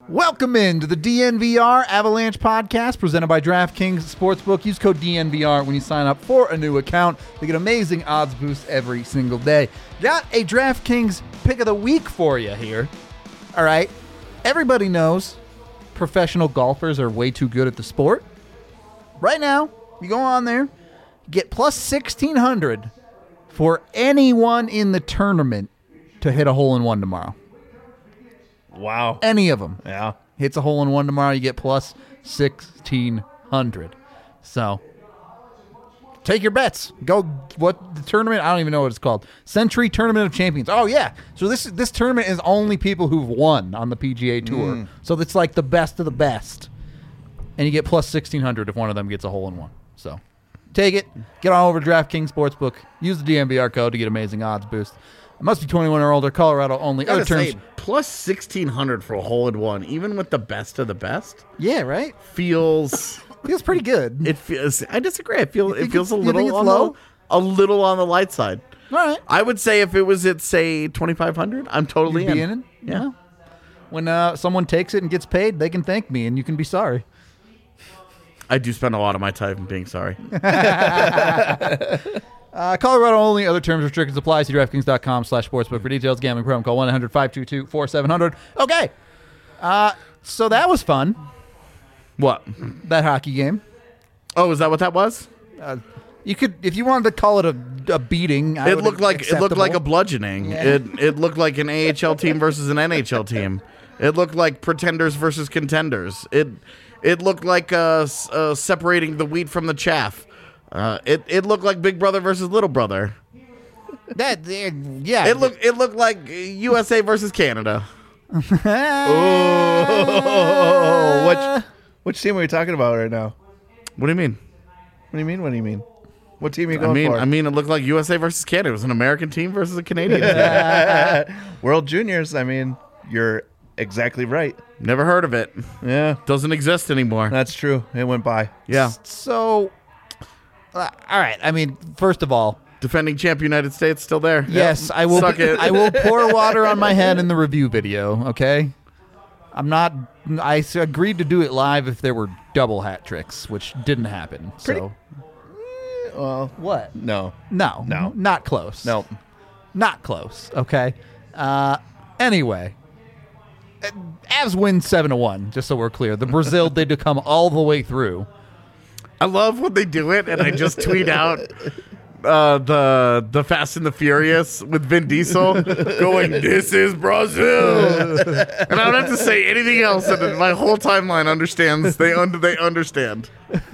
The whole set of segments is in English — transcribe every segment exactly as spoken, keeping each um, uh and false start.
Welcome into the D N V R Avalanche podcast presented by DraftKings Sportsbook. Use code D N V R when you sign up for a new account to get amazing odds boosts every single day. Got a DraftKings pick of the week for you here. All right. Everybody knows professional golfers are way too good at the sport. Right now, you go on there, get plus sixteen hundred for anyone in the tournament to hit a hole-in-one tomorrow. Wow. Any of them. Yeah. Hits a hole-in-one tomorrow, you get plus sixteen hundred. So, take your bets. Go, what the tournament, I don't even know what it's called. Century Tournament of Champions. Oh, yeah. So this this tournament is only people who've won on the P G A Tour. Mm. So it's like the best of the best. And you get plus sixteen hundred if one of them gets a hole-in-one. So, take it. Get on over to DraftKings Sportsbook. Use the D N V R code to get amazing odds boost. It must be twenty-one or older. Colorado only. Other terms. Say, plus sixteen hundred for a hole in one, even with the best of the best. Yeah, right? Feels feels pretty good. It feels. I disagree. I feel it feels a you little think it's on low? the, a little on the light side. All right. I would say if it was at say twenty-five hundred, I'm totally You'd be in. in it? Yeah. Well, when uh, someone takes it and gets paid, they can thank me, and you can be sorry. I do spend a lot of my time being sorry. Uh, Colorado only. Other terms, restrictions apply. See DraftKings.com slash sportsbook for details. Gambling problem. Call one eight hundred five two two four seven zero zero. Okay. Uh, so that was fun. What? That hockey game. Oh, is that what that was? Uh, you could, if you wanted to call it a, a beating. I It would looked like it looked like a acceptable. bludgeoning. Yeah. It it looked like an A H L team versus an N H L team. It looked like pretenders versus contenders. It it looked like uh, s- uh, separating the wheat from the chaff. Uh, it it looked like Big Brother versus Little Brother. That, uh, yeah. It looked it looked like U S A versus Canada. Oh, which which team are we talking about right now? What do you mean? What do you mean? What do you mean? What team are you I going mean, for? I mean, it looked like U S A versus Canada. It was an American team versus a Canadian team. World Juniors. I mean, you're exactly right. Never heard of it. Yeah, Doesn't exist anymore. that's true. It went by. Yeah. So, uh, all right. I mean, first of all, Defending champ United States still there. yes, Yep. I will. Suck it. I will pour water on my head in the review video. Okay, I'm not. I s- agreed to do it live if there were double hat tricks, which didn't happen. So Well, what? no, No, No. not close. no. not close. Okay. Uh, anyway, uh, Avs win seven to one. Just so we're clear, the Brazil did to come all the way through. I love when they do it, and I just tweet out uh, the the Fast and the Furious with Vin Diesel going, "This is Brazil," and I don't have to say anything else, and then my whole timeline understands. They under they understand.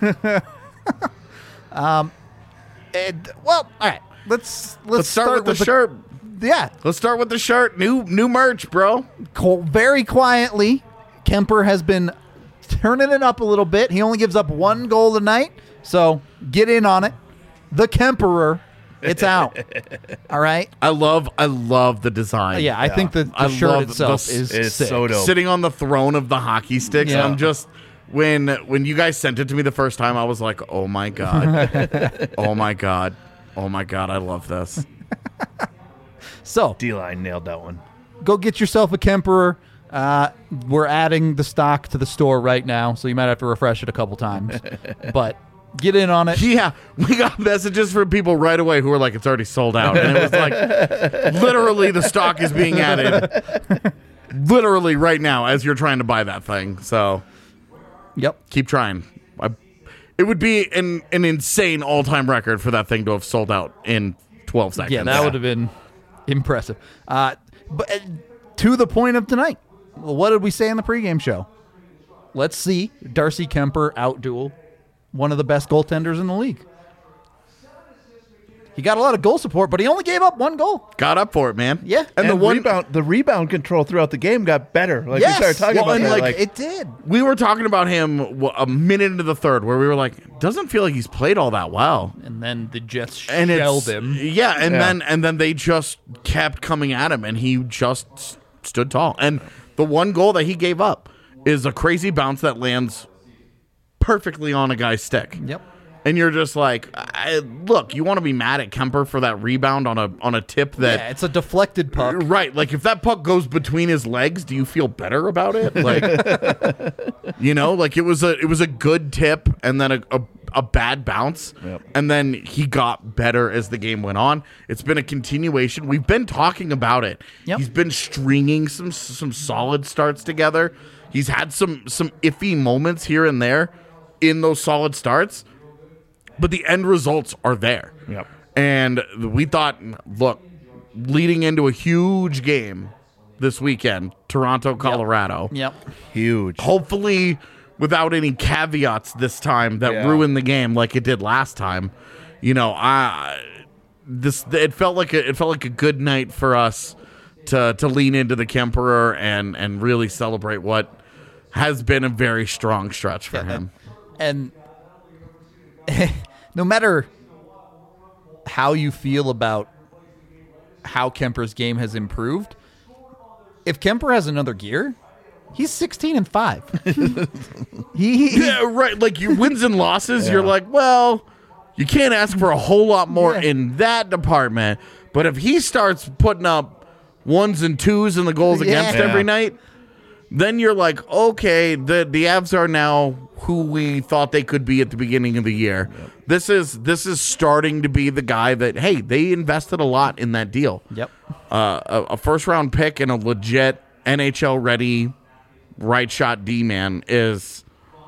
And, well, all right. Let's let's, Let's start, with the shirt. Yeah, Let's start with the shirt. New new merch, bro. co- very quietly, Kemper has been turning it up a little bit. He only gives up one goal tonight, so get in on it. The Kemperer, it's out. All right. I love I love the design. Yeah, I think the, the I shirt love itself the- is it's sick. so dope. Sitting on the throne of the hockey sticks. Yeah. I'm just when when you guys sent it to me the first time, I was like, oh my god, oh my god, oh my god, I love this. So D-line nailed that one. go get yourself a Kemperer. Uh, we're adding the stock to the store right now, so you might have to refresh it a couple times. But get in on it. Yeah, we got messages from people right away who were like, it's already sold out, and it was like, literally, the stock is being added, literally right now as you're trying to buy that thing. So Yep. keep trying. I, it would be an an insane all time record for that thing to have sold out in twelve seconds. Yeah, that would have been impressive. Uh, but uh, to the point of tonight, what did we say in the pregame show? Let's see Darcy Kemper outduel one of the best goaltenders in the league. He got a lot of goal support, but he only gave up one goal. Got up for it, man. Yeah. and, And the one rebound, the rebound control throughout the game got better. Like Yes. we started talking Well, about and, that. like, Like, It did. we were talking about him wha- a minute into the third, where we were like, doesn't feel like he's played all that well. And then the Jets And shelled it's, him. Yeah, and Yeah. then and then they just kept coming at him, and he just s- stood tall. And the one goal that he gave up is a crazy bounce that lands perfectly on a guy's stick. Yep. And you're just like, I, look, you want to be mad at Kemper for that rebound on a on a tip that Yeah, it's a deflected puck. right, like if that puck goes between his legs, do you feel better about it? Like, you know, like it was a it was a good tip and then a a, a bad bounce, Yep. and then he got better as the game went on. It's been a continuation. We've been talking about it. Yep. He's been stringing some some solid starts together. He's had some some iffy moments here and there in those solid starts. But the end results are there. Yep. And we thought, look, leading into a huge game this weekend, Toronto, Colorado, Yep. Huge. hopefully without any caveats this time that Yeah. ruined the game like it did last time. You know, I this it felt like a, it felt like a good night for us to to lean into the Kemperer and and really celebrate what has been a very strong stretch for him. And no matter how you feel about how Kemper's game has improved, if Kemper has another gear, he's sixteen and five. he, he Yeah, right. Like your wins and losses, you're like, well, you can't ask for a whole lot more Yeah. in that department. But if he starts putting up ones and twos in the goals Yeah. against Yeah. every night, then you're like, okay, the the Avs are now who we thought they could be at the beginning of the year. This is this is starting to be the guy that, hey, they invested a lot in that deal. Yep. Uh, a, a first round pick and a legit N H L ready right shot D man is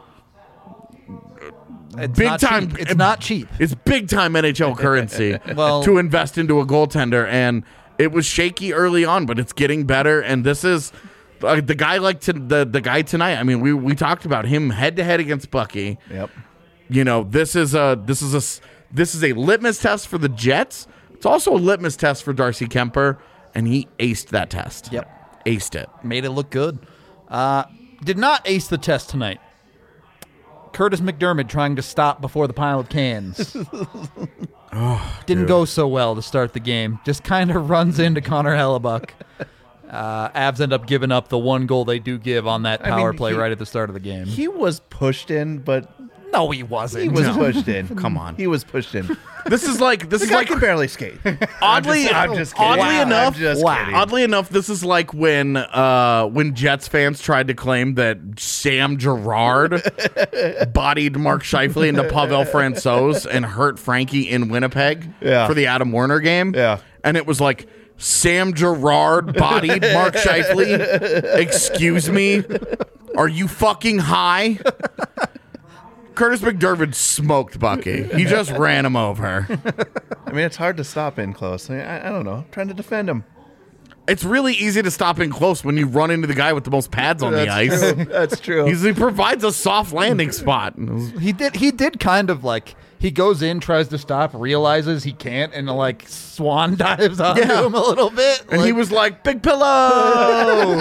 It's big not time. cheap. It's not cheap. It's big time N H L currency Well- to invest into a goaltender, and it was shaky early on, but it's getting better. And this is uh, the guy like to, the the guy tonight. I mean, we we talked about him head to head against Bucky. Yep. You know, this is a this is a s- this is a litmus test for the Jets. It's also a litmus test for Darcy Kemper, and he aced that test. Yep. Aced it. Made it look good. Uh, did not ace the test tonight. Curtis McDermott trying to stop before the pile of cans. Didn't go so well to start the game. Just kind of runs into Connor Hellebuck. Uh, Avs end up giving up the one goal they do give on that I power mean, play he- right at the start of the game. He was pushed in, but no, he wasn't. he was No. pushed in. Come on. He was pushed in. This is like this The is guy like can barely skate. oddly I'm just, I'm just kidding. oddly Wow. enough I'm just wow. kidding. Oddly enough, this is like when uh, when Jets fans tried to claim that Sam Girard bodied Mark Scheifele into Pavel Francouz and hurt Frankie in Winnipeg Yeah. for the Adam Werner game. Yeah. And it was like, Sam Girard bodied Mark Scheifele? Excuse me? Are you fucking high? Curtis McDermott smoked Bucky. He just ran him over. I mean, it's hard to stop in close. I, I, I don't know. I'm trying to defend him. It's really easy to stop in close when you run into the guy with the most pads on the That's ice. true. That's true. He's, he provides a soft landing spot. He did. He did kind of like he goes in, tries to stop, realizes he can't, and like swan dives onto Yeah. him a little bit. And he like- was like, "Big pillow."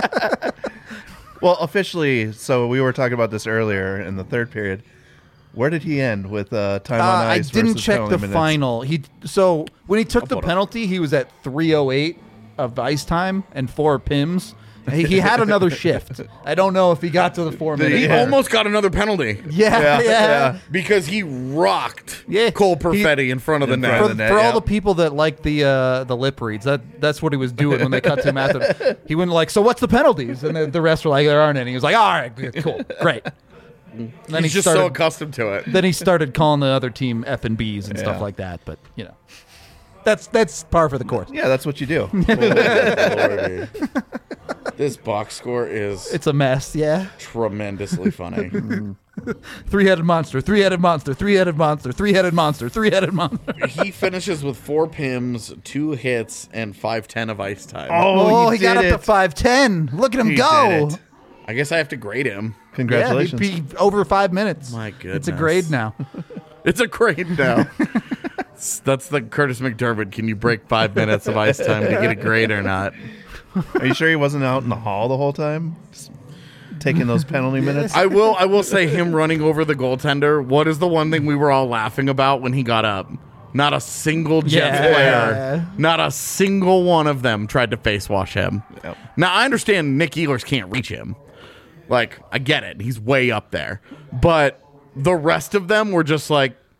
Well, officially, so we were talking about this earlier in the third period. Where did he end with uh, time Uh, on I ice? didn't versus check penalty the minutes? final. He so when he took the Hold on. penalty, he was at three oh eight of ice time and four P I Ms. He, he had another shift. I don't know if he got to the four Did he? minutes. He Yeah. almost got another penalty Yeah, Yeah, yeah. yeah. because he rocked Yeah. Cole Perfetti in front of the In net. front For, of the net, for all yeah. the people that like the uh, the lip reads, that that's what he was doing when they cut to him after. He went like, "So what's the penalties?" And the, the rest were like, "There aren't any." He was like, "All right, cool, great." And then He's he just started, so accustomed to it. then he started calling the other team F and B's and stuff Yeah. like that. But you know, that's that's par for the course. Yeah, that's what you do. Lordy. This box score is It's a mess. Yeah. tremendously funny. Three-headed monster, three-headed monster, three-headed monster, three-headed monster, three-headed monster. He finishes with four P I Ms, two hits, and five ten of ice time. Oh, he, he got up did to it. five ten. Look at him He go. did it. I guess I have to grade him. Congratulations. Yeah, he'd be over five minutes. My It's a goodness. grade now. It's a grade now. That's the Curtis McDermott. Can you break five minutes of ice time to get a grade or not? Are you sure he wasn't out in the hall the whole time? Just taking those penalty minutes? I will. I will say him running over the goaltender. What is the one thing we were all laughing about when he got up? Not a single Jets Yeah. player, not a single one of them tried to face wash him. Yep. Now I understand Nick Ehlers can't reach him. Like I get it, he's way up there, but the rest of them were just like,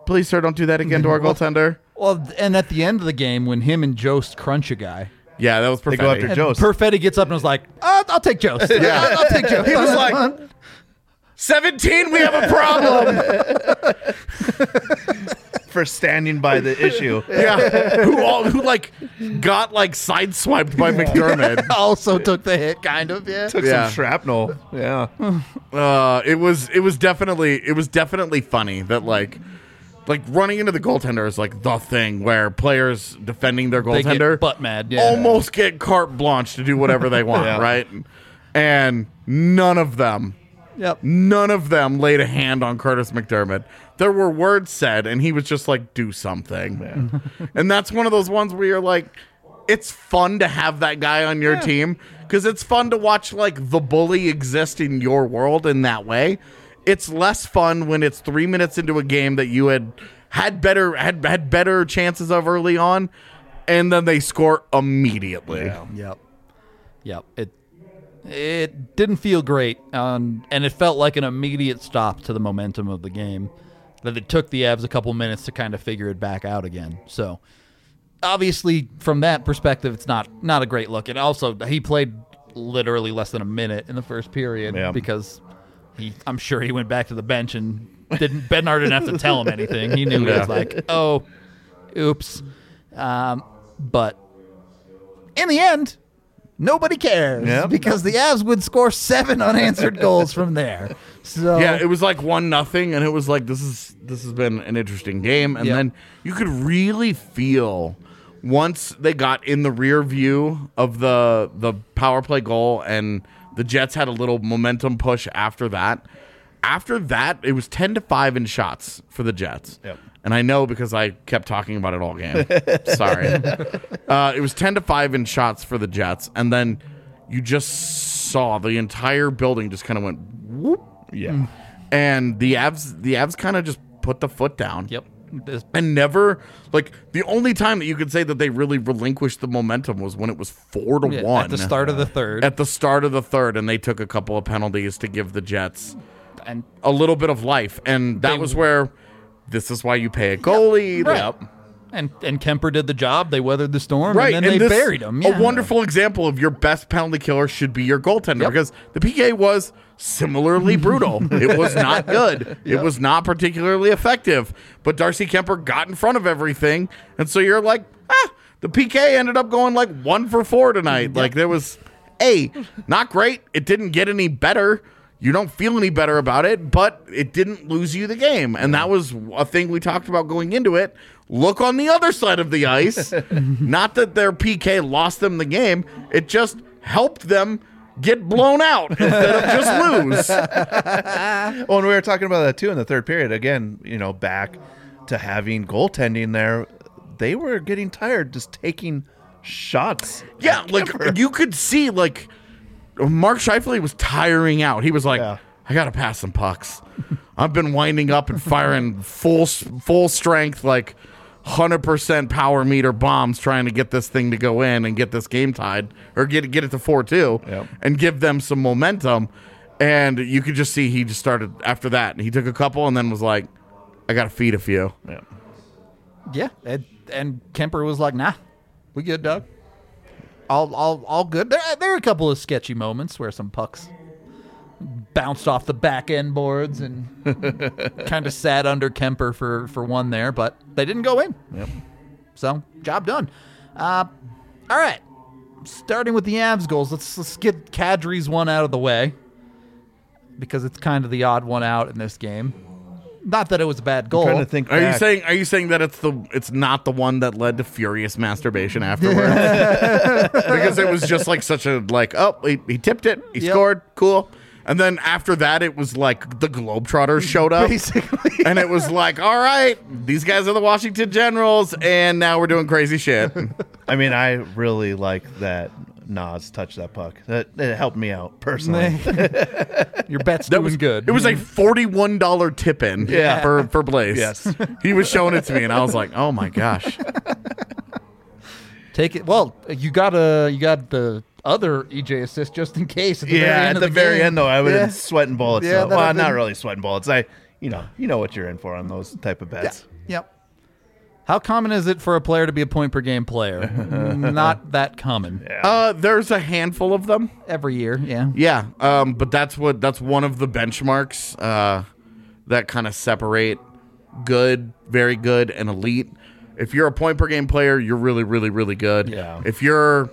please, sir, don't do that again to our goaltender. Well, and at the end of the game, when him and Jost crunch a guy, Yeah, that was They go after perfect. Jost. Perfetti gets up and was like, "Uh, I'll take Jost. Yeah. I'll, I'll take Jost." He was like, seventeen, we have a problem. For standing by the issue. Yeah, who all who like got like sideswiped by McDermott. also took the hit, kind of. Yeah. Took Yeah. some shrapnel. Yeah. Uh, it was it was definitely it was definitely funny that like like running into the goaltender is like the thing where players defending their They goaltender get butt mad. Yeah. almost get carte blanche to do whatever they want, Yeah. right? And none of them, Yep. none of them laid a hand on Curtis McDermott. There were words said, and he was just like, "Do something." And that's one of those ones where you're like, it's fun to have that guy on your team because it's fun to watch like the bully exist in your world in that way. It's less fun when it's three minutes into a game that you had had better had had better chances of early on, and then they score immediately. Yep. Yep. It it didn't feel great, um, and it felt like an immediate stop to the momentum of the game. That it took the Avs a couple minutes to kind of figure it back out again. So obviously, from that perspective, it's not not a great look. And also, he played literally less than a minute in the first period Yeah. because he, I'm sure he went back to the bench and didn't. Bednar didn't have to tell him anything. He knew he was like, oh, oops. Um, but in the end, nobody cares Yep. because the Avs would score seven unanswered goals from there. So Yeah, it was like one nothing, and it was like this is this has been an interesting game, and Yep. then you could really feel once they got in the rear view of the the power play goal, and the Jets had a little momentum push after that. After that, it was ten to five in shots for the Jets. Yep. And I know because I kept talking about it all game. Sorry. Uh, it was ten to five in shots for the Jets, and then you just saw the entire building just kind of went whoop. Yeah. And the Avs, the Avs kind of just put the foot down. Yep. This- And never, like, the only time that you could say that they really relinquished the momentum was when it was four to yeah, one at the start of the third. At the start of the third, and they took a couple of penalties to give the Jets and a little bit of life, and that They- was where this is why you pay a goalie. right. Yep. And and Kemper did the job. They weathered the storm, Right, and then they this- buried him. Yeah. A wonderful example of your best penalty killer should be your goaltender Yep. because the P K was similarly brutal. It was not good. It was not particularly effective. But Darcy Kemper got in front of everything, and so you're like, ah, the P K ended up going like one for four tonight. Like there was, a not great. It didn't get any better. You don't feel any better about it, but it didn't lose you the game. And that was a thing we talked about going into it. Look on the other side of the ice. Not that their P K lost them the game. It just helped them get blown out instead of just lose. Well, and we were talking about that too in the third period. Again, you know, back to having goaltending there. They were getting tired just taking shots. Yeah, like you could see, like Mark Scheifele was tiring out. He was like, Yeah. "I got to pass some pucks. I've been winding up and firing full full strength, like one hundred percent power meter bombs, trying to get this thing to go in and get this game tied or get get it to four two, Yep. and give them some momentum." And you could just see he just started after that. He took a couple and then was like, "I got to feed a few." Yeah. Yeah, and, and Kemper was like, "Nah, we good, Doug. All, all, all good." There, there are a couple of sketchy moments where some pucks bounced off the back end boards and kind of sat under Kemper for, for one there, but they didn't go in. Yep. So, job done. Uh, all right, starting with the Avs goals. Let's let's get Kadri's one out of the way because it's kind of the odd one out in this game. Not that it was a bad goal. Trying to think. Are you back. saying are you saying that it's the it's not the one that led to furious masturbation afterwards? Because it was just like such a like, oh, he, he tipped it, he Yep. scored, cool. And then after that it was like the Globetrotters showed up. Basically. And it was like, all right, these guys are the Washington Generals, and now we're doing crazy shit. I mean, I really like that Nas touched that puck. That it helped me out personally. Your bet's That doing was good. It was like forty-one dollar tip in Yeah. for, for Blaze. Yes. He was showing it to me, and I was like, oh my gosh. Take it. Well, you got a you got the other E J assist just in case. At the very Yeah, end at of the, the very game. end though, I was Yeah. sweating bullets. Yeah, though. that'd Well, have not been- really sweating bullets. I, you know, you know what you're in for on those type of bets. Yep. How common is it for a player to be a point per game player? Not that common. Yeah. Uh, there's a handful of them. Every year, yeah. Yeah, um, but that's what that's one of the benchmarks uh, that kind of separate good, very good, and elite. If you're a point per game player, you're really, really, really good. Yeah. If you're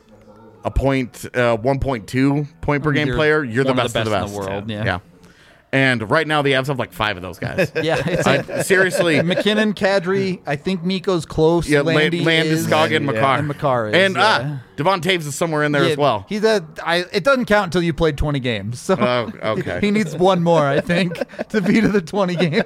a point, uh, one point two point per game You're player, you're the one of best, the of the best best in the world, yeah. yeah. And right now, the Avs have like five of those guys. Yeah, it's like I, seriously. McKinnon, Kadri, I think Miko's close. Yeah, Landy, is, Landeskog, and Yeah. Makar. and Makar is, And yeah. ah, Devon Taves is somewhere in there Yeah, as well. He's a. I, it doesn't count until you played twenty games. So Oh, okay. he needs one more, I think, to be to the twenty games.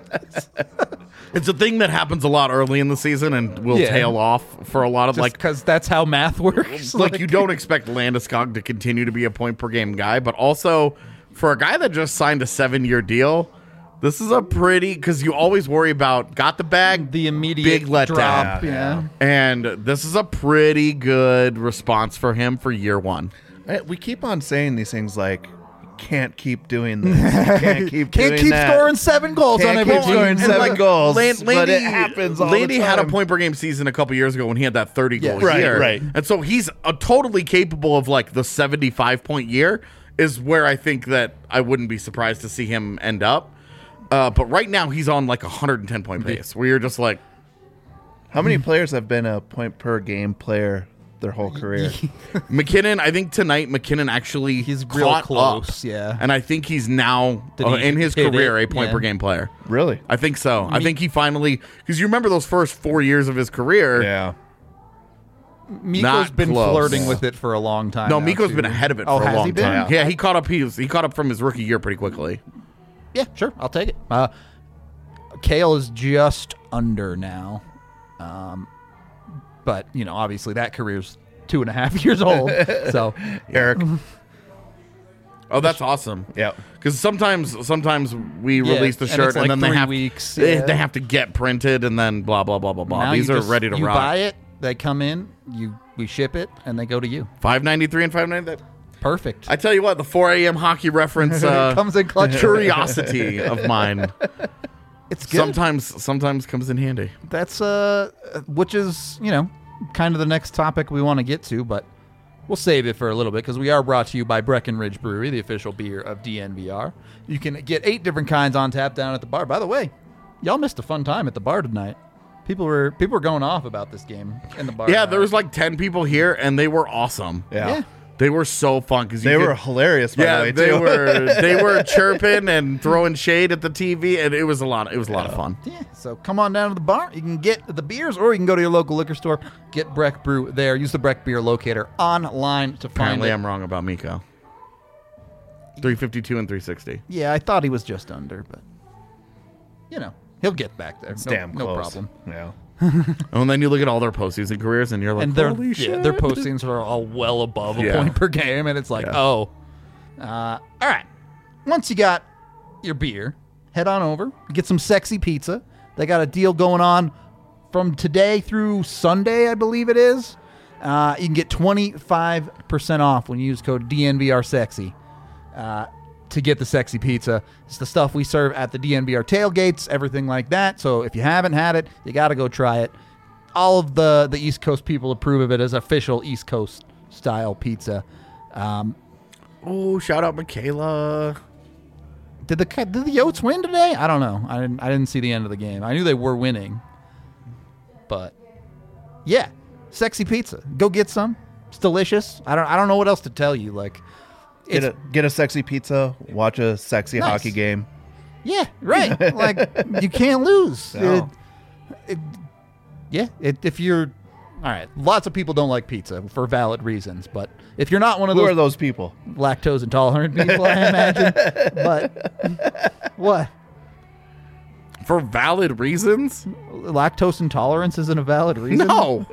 It's a thing that happens a lot early in the season and will Yeah. tail off for a lot of Just like because that's how math works. like you don't expect Landeskog to continue to be a point per game guy, but also for a guy that just signed a seven year deal, this is a pretty because you always worry about got the bag, the immediate big letdown. drop. Yeah, Yeah. and this is a pretty good response for him for year one. I- we keep on saying these things like, can't keep doing this. You can't keep Can't doing keep that. scoring seven goals Can't on every keep scoring team. seven goals, Land- but it happens all the Landy had a time. point per game season a couple years ago when he had that thirty goal Yeah. Right, year. right. And so he's a totally capable of like the seventy-five point year is where I think that I wouldn't be surprised to see him end up. Uh, but right now he's on like a one hundred ten point pace where you're just like, How many players have been a point per game player their whole career? McKinnon, I think tonight McKinnon actually He's real caught close, up, yeah. and I think he's now Did uh, he in his hit career it? a point Yeah. per game player. Really? I think so. I think he finally because you remember those first four years of his career. Yeah. Miko's Not been close. flirting Yeah. with it for a long time. No, now, Miko's too. been ahead of it Oh, for a has long he been? time. Yeah, he caught up. He was, he caught up from his rookie year pretty quickly. Yeah, sure. I'll take it. Uh, Kale is just under now. Um, but, you know, obviously that career's two and a half years old. So, Eric. Oh, that's awesome. Yeah. Because sometimes, sometimes we Yeah, release the and shirt it's and, like then they three have weeks, they, yeah. they have to get printed and then blah blah blah blah blah. now These you are just- ready to you rock. buy it, they come in, you we ship it, and they go to you. Five ninety three and five ninety. Perfect. I tell you what, the four a.m. hockey reference uh, Comes in clutch. curiosity of mine It's good. sometimes sometimes comes in handy. That's uh, which is you know kind of the next topic we want to get to, but we'll save it for a little bit because we are brought to you by Breckenridge Brewery, the official beer of D N V R. You can get eight different kinds on tap down at the bar. By the way, y'all missed a fun time at the bar tonight. People were people were going off about this game in the bar. Yeah, tonight. there was like ten people here and they were awesome. Yeah. Yeah. They were so fun because They were hilarious, by Yeah, the way, they too. were they were chirping and throwing shade at the T V, and it was a lot. It was a lot of fun. Yeah, so come on down to the bar. You can get the beers, or you can go to your local liquor store. Get Breck Brew there. Use the Breck Beer Locator online to find Apparently, it. I'm wrong about Miko. three fifty-two and three sixty. Yeah, I thought he was just under, but you know he'll get back there. It's no, damn no close. problem. Yeah. And then you look at all their postseason careers, and you're like, And their holy yeah, shit. their postings are all well above a Yeah. point per game, and it's like, Yeah. oh, uh, all right. Once you got your beer, head on over, get some sexy pizza. They got a deal going on from today through Sunday, I believe it is. Uh, you can get twenty-five percent off when you use code D N V R Sexy uh, to get the sexy pizza. It's the stuff we serve at the D N V R tailgates, everything like that. So if you haven't had it, you got to go try it. All of the, the East Coast people approve of it as official East Coast style pizza. Um, Oh, shout out Michaela. did the did the Yotes win today? I don't know. I didn't I didn't see the end of the game. I knew they were winning, but yeah, sexy pizza. Go get some. It's delicious. I don't I don't know what else to tell you. Like, Get it's a, get a sexy pizza, watch a sexy Nice. hockey game. yeah, right. Like you can't lose. No. It- it- yeah, it, if you're all right. Lots of people don't like pizza for valid reasons, but if you're not one of Who those are those people? lactose intolerant people, I imagine. But what? For valid reasons? Lactose intolerance isn't a valid reason? No.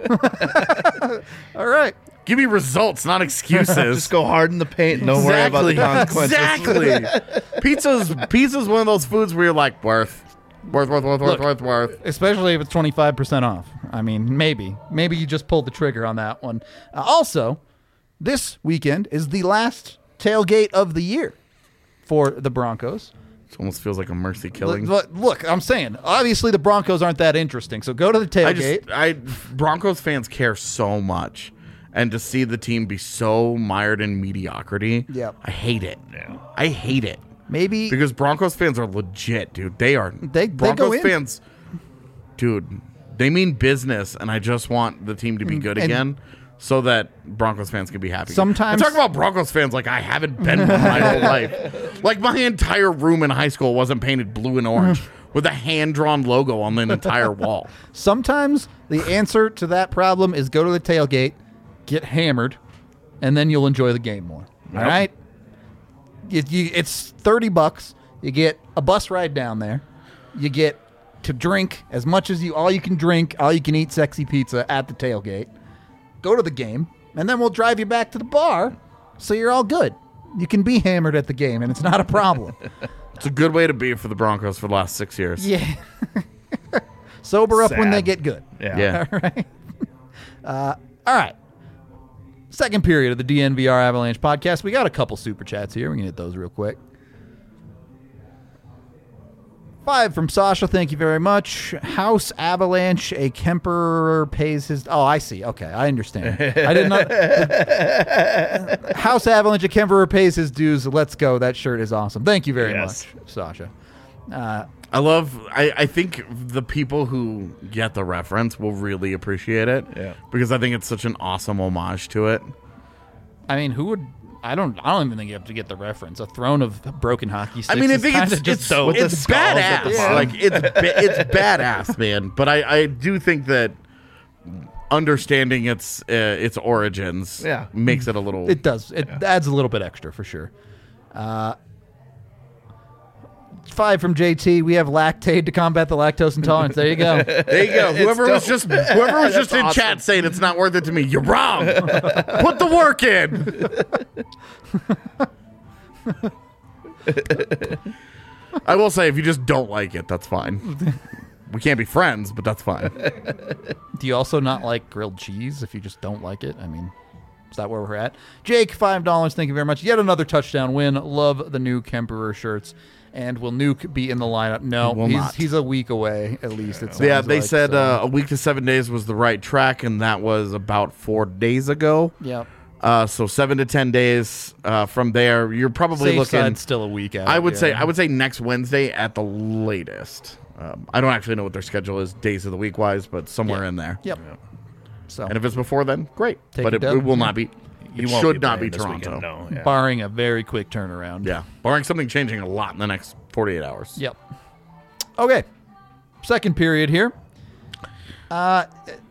All right. Give me results, not excuses. Just go hard in the paint and don't worry about the consequences. Exactly. Pizza's pizza's one of those foods where you're like, worth. Worth, worth, worth, Look. worth, worth, worth. Especially if it's twenty-five percent off. I mean, maybe. Maybe you just pulled the trigger on that one. Uh, also, this weekend is the last tailgate of the year for the Broncos. It almost feels like a mercy killing. Look, look, I'm saying, obviously the Broncos aren't that interesting. So go to the I tailgate. just, I Broncos fans care so much, and to see the team be so mired in mediocrity, Yep. I hate it. I hate it Maybe because Broncos fans are legit, dude. They are. They- they Broncos go in. fans, dude. They mean business, and I just want the team to be good And- again, so that Broncos fans can be happy. Sometimes- I talk about Broncos fans like I haven't been one my whole life. Like my entire room in high school wasn't painted blue and orange with a hand-drawn logo on the entire wall. sometimes the answer to that problem is go to the tailgate, get hammered, and then you'll enjoy the game more. All right? You, you, it's thirty bucks. You get a bus ride down there. You get to drink as much as you, all you can drink, all you can eat sexy pizza at the tailgate. Go to the game, and then we'll drive you back to the bar so you're all good. You can be hammered at the game, and it's not a problem. It's a good way to be for the Broncos for the last six years. Yeah. Sober up when Sad. they get good. Yeah. Yeah. All right. Uh, all right. Second period of the D N V R Avalanche podcast. We got a couple super chats here. We can hit those real quick. Five from Sasha. Thank you very much. House Avalanche. A Kemper pays his. Oh, I see. Okay, I understand. I did not. House Avalanche. A Kemper pays his dues. Let's go. That shirt is awesome. Thank you very Yes. much, Sasha. Uh, I love. I, I think the people who get the reference will really appreciate it. Yeah. Because I think it's such an awesome homage to it. I mean, who would? I don't. I don't even think you have to get the reference. A throne of broken hockey sticks. I mean, I is think kinda it's just it's, so. With the it's skulls at badass. the bottom. Like it's ba- it's badass, man. But I, I do think that understanding its uh, its origins Yeah. makes it a little. It does. It adds a little bit extra for sure. Uh, five from J T. We have Lactaid to combat the lactose intolerance. There you go. There you go. Whoever was dope. just whoever was just That's in awesome. chat saying it's not worth it to me, you're wrong. Put the work in. I will say, if you just don't like it, that's fine. We can't be friends, but that's fine. Do you also not like grilled cheese if you just don't like it? I mean, is that where we're at? Jake, five dollars. Thank you very much. Yet another touchdown win. Love the new Kemperer shirts. And will Nuke be in the lineup? No, He will he's not. he's a week away at least. It Yeah, sounds they like, said so. uh, a week to seven days was the right track, and that was about four days ago. Yep. Uh, so seven to ten days uh, from there, you're probably Safe looking. side, still a week out. I would yeah. say I would say next Wednesday at the latest. Um, I don't actually know what their schedule is days of the week wise, but somewhere Yeah. in there. Yep. So, And if it's before then, great. Take but a it, dub. it will not be. He It won't should not playing be this Toronto. weekend, No, yeah. barring a very quick turnaround. Yeah, barring something changing a lot in the next forty-eight hours. Yep. Okay. Second period here. Uh,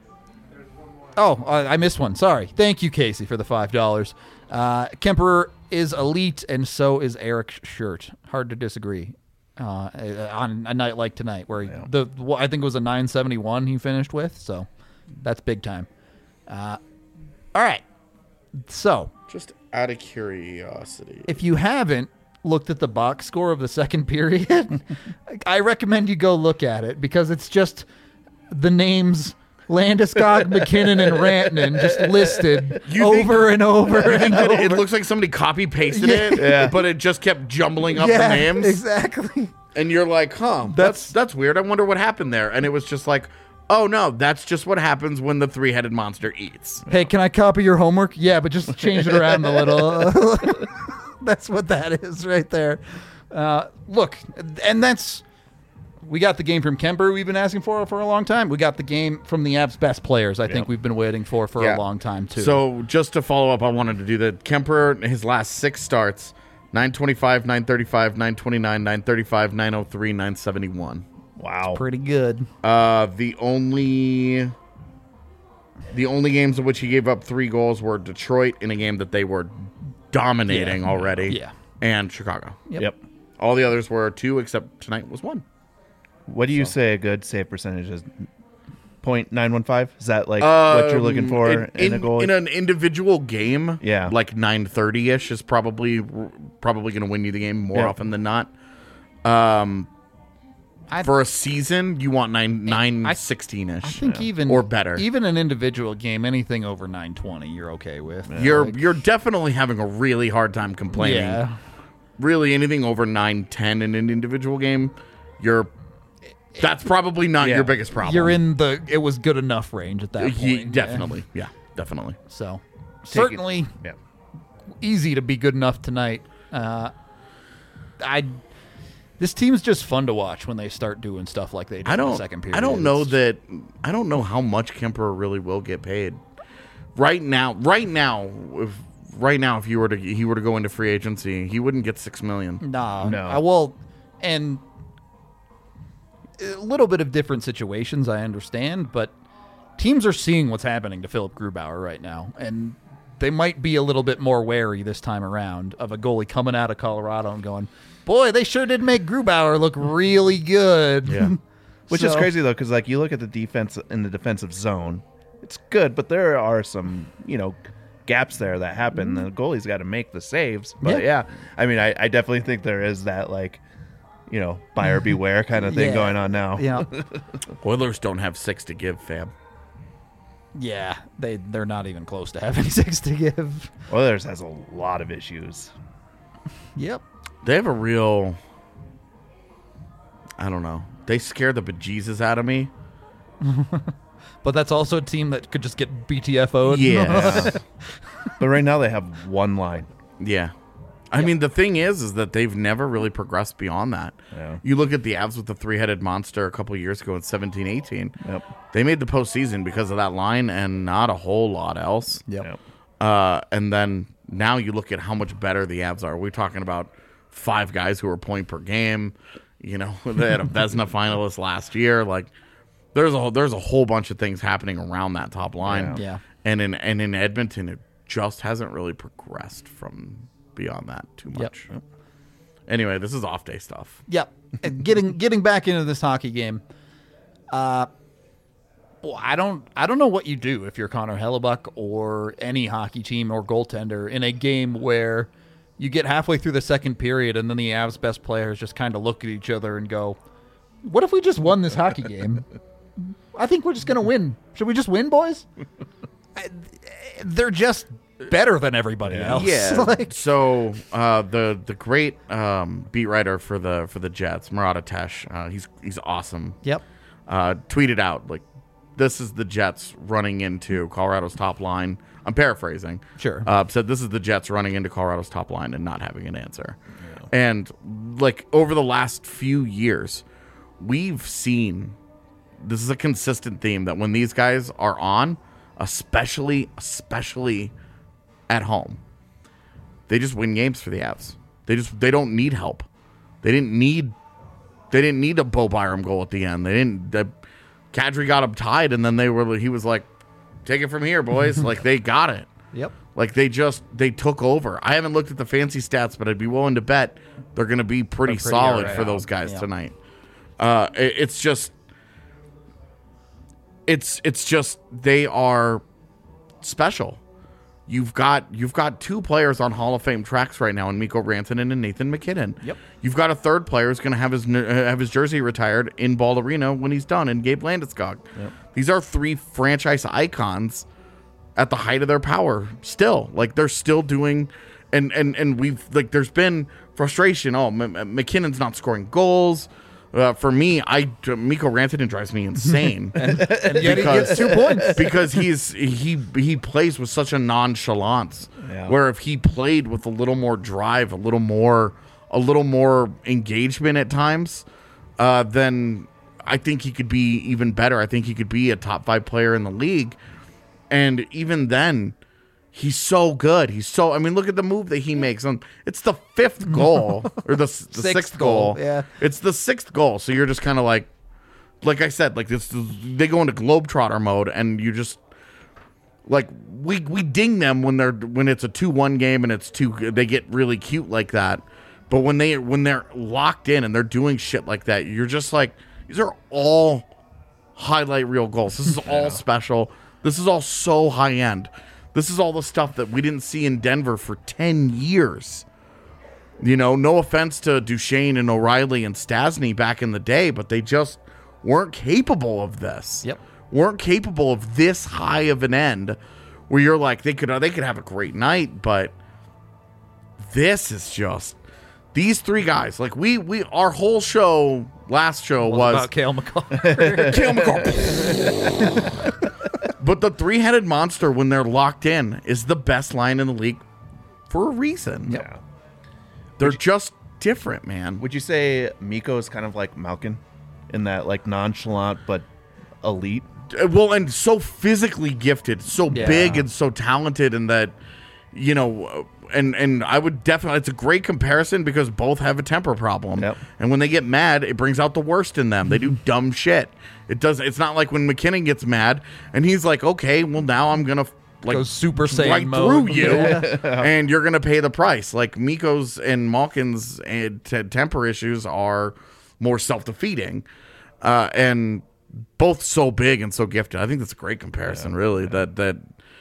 oh, I I missed one. Sorry. Thank you, Casey, for the five dollars. Uh, Kemper is elite, and so is Eric's shirt. Hard to disagree. Uh, on a night like tonight, where he, the well, I think it was a nine seventy-one he finished with, so that's big time. Uh, all right. So, Just out of curiosity. if you haven't looked at the box score of the second period, I recommend you go look at it because it's just the names Landeskog, McKinnon, and Rantanen just listed You think- over and over and It, over. it looks like somebody copy pasted it, Yeah. but it just kept jumbling up yeah, the names. exactly. And you're like, huh, that's that's weird. I wonder what happened there. And it was just like, oh no, that's just what happens when the three-headed monster eats. Hey, can I copy your homework? Yeah, but just change it around a little. That's what that is right there. Uh, look, and that's we got the game from Kemper we've been asking for for a long time. We got the game from the Avs' best players. I think we've been waiting for for Yeah. a long time too. So just to follow up, I wanted to do that. Kemper, his last six starts, nine twenty-five, nine thirty-five, nine twenty-nine, nine thirty-five, nine oh three, nine seventy-one. Wow. pretty good. Uh, the only the only games in which he gave up three goals were Detroit in a game that they were dominating Yeah. already, Yeah. and Chicago. Yep. Yep. All the others were two, except tonight was one. What do you say a good save percentage is? point nine one five? Is that like what you're looking Um, for in, in, a in- goal? in an individual game? Yeah. like nine thirty ish is probably probably going to win you the game more Yeah. often than not. Um, I- for a season, you want nine nine I- sixteen ish. I think even Or better. even an individual game, anything over nine twenty, you're okay with. You're Like, you're definitely having a really hard time complaining. yeah. really anything over nine ten in an individual game, you're that's probably not Yeah. your biggest problem. You're in the it was good enough range at that point. Ye- yeah. definitely, yeah, definitely. So Take it- certainly Yeah. easy to be good enough tonight. Uh, I this team's just fun to watch when they start doing stuff like they did I in don't. the second period. I don't know It's- that. I don't know how much Kemper really will get paid. Right now, right now, if right now, if you were to he were to go into free agency, he wouldn't get six million. Nah, No. I will, and a little bit of different situations, I understand, but teams are seeing what's happening to Philip Grubauer right now, and they might be a little bit more wary this time around of a goalie coming out of Colorado and going, boy, they sure did make Grubauer look really good. Yeah. Which is So- crazy though, because like you look at the defense in the defensive zone, it's good, but there are some you know gaps there that happen. The goalie's got to make the saves. But yeah, Yeah. I mean, I, I definitely think there is that like you know buyer beware kind of thing Yeah. going on now. Yeah. Oilers don't have six to give, fam. Yeah, they, they're not even close to having six to give. Oilers has a lot of issues. Yep. They have a real. I don't know. They scare the bejesus out of me. But that's also a team that could just get B T F O'd. Yeah. But right now they have one line. Yeah. I mean, the thing is, is that they've never really progressed beyond that. Yeah. You look at the Avs with the three-headed monster a couple years ago in seventeen eighteen. Yep. They made the postseason because of that line and not a whole lot else. Yep. Yep. Uh, and then now you look at how much better the Avs are. We're talking about five guys who are point per game. You know, they had a Vezina finalist last year. Like, there's a there's a whole bunch of things happening around that top line. Yeah. Yeah. And in and in Edmonton, it just hasn't really progressed from beyond that too much. Yep. Anyway, this is off day stuff. Yep. And getting getting back into this hockey game. Uh well, I don't I don't know what you do if you're Connor Hellebuck or any hockey team or goaltender in a game where you get halfway through the second period and then the Avs best players just kind of look at each other and go, "What if we just won this hockey game? I think we're just going to win. Should we just win, boys?" I- They're just better than everybody else. Like, so uh, the the great um, beat writer for the for the Jets, Murat Atesh, uh, he's he's awesome. yep. Uh, tweeted out like, "This is the Jets running into Colorado's top line." I'm paraphrasing. Sure. Uh, said this is the Jets running into Colorado's top line and not having an answer. And like over the last few years, we've seen this is a consistent theme that when these guys are on, especially especially at home, they just win games for the Avs. They just they don't need help. They didn't need they didn't need a Bo Byram goal at the end. They didn't. The, Kadri got them tied, and then they were. He was like, "Take it from here, boys." Like they got it. Yep. Like they just they took over. I haven't looked at the fancy stats, but I'd be willing to bet they're going to be pretty, They're pretty solid alright. for those guys Yeah. tonight. Uh, it- it's just, it's it's just they are special. You've got you've got two players on Hall of Fame tracks right now, in Mikko Rantanen and Nathan McKinnon. Yep. You've got a third player who's going to have his uh, have his jersey retired in Ball Arena when he's done, in Gabe Landeskog. Yep. These are three franchise icons at the height of their power. Still, like they're still doing, and and and we've like there's been frustration. Oh, M- M- McKinnon's not scoring goals. Uh, for me, I Mikko Rantanen drives me insane. And yet he Because- gets two points. because he's he he plays with such a nonchalance. Yeah. Where if he played with a little more drive, a little more a little more engagement at times, uh, then I think he could be even better. I think he could be a top five player in the league. And even then, he's so good. He's so. I mean, look at the move that he makes. Um, it's the fifth goal or the, the sixth, Sixth goal. goal, yeah. It's the sixth goal. So you're just kind of like, like I said, like this. They go into globetrotter mode, and you just like we we ding them when they're when it's a two one game and it's two. They get really cute like that. But when they when they're locked in and they're doing shit like that, you're just like, these are all highlight reel goals. This is all special. This is all so high end. This is all the stuff that we didn't see in Denver for ten years. You know, no offense to Duchesne and O'Reilly and Stasny back in the day, but they just weren't capable of this. Yep. Weren't capable of this high of an end where you're like, they could they could have a great night, but this is just These three guys, like we we our whole show last show was, was about Cale McCall. Cale McCall. But the three-headed monster, when they're locked in, is the best line in the league for a reason. Yeah. They're just different, man. Would you say Miko is kind of like Malkin in that like nonchalant but elite? Uh, Well, and so physically gifted, so Yeah. big and so talented, and that, you know, uh, and and I would definitely, it's a great comparison because both have a temper problem. Yep. And when they get mad, it brings out the worst in them. They do dumb shit. It does. It's not like when McKinnon gets mad and he's like, okay, well now I'm gonna like Go Super Saiyan right mode. through you, Yeah. and you're gonna pay the price. Like Miko's and Malkin's uh, t- temper issues are more self defeating, uh, and both so big and so gifted. I think that's a great comparison. Really, that that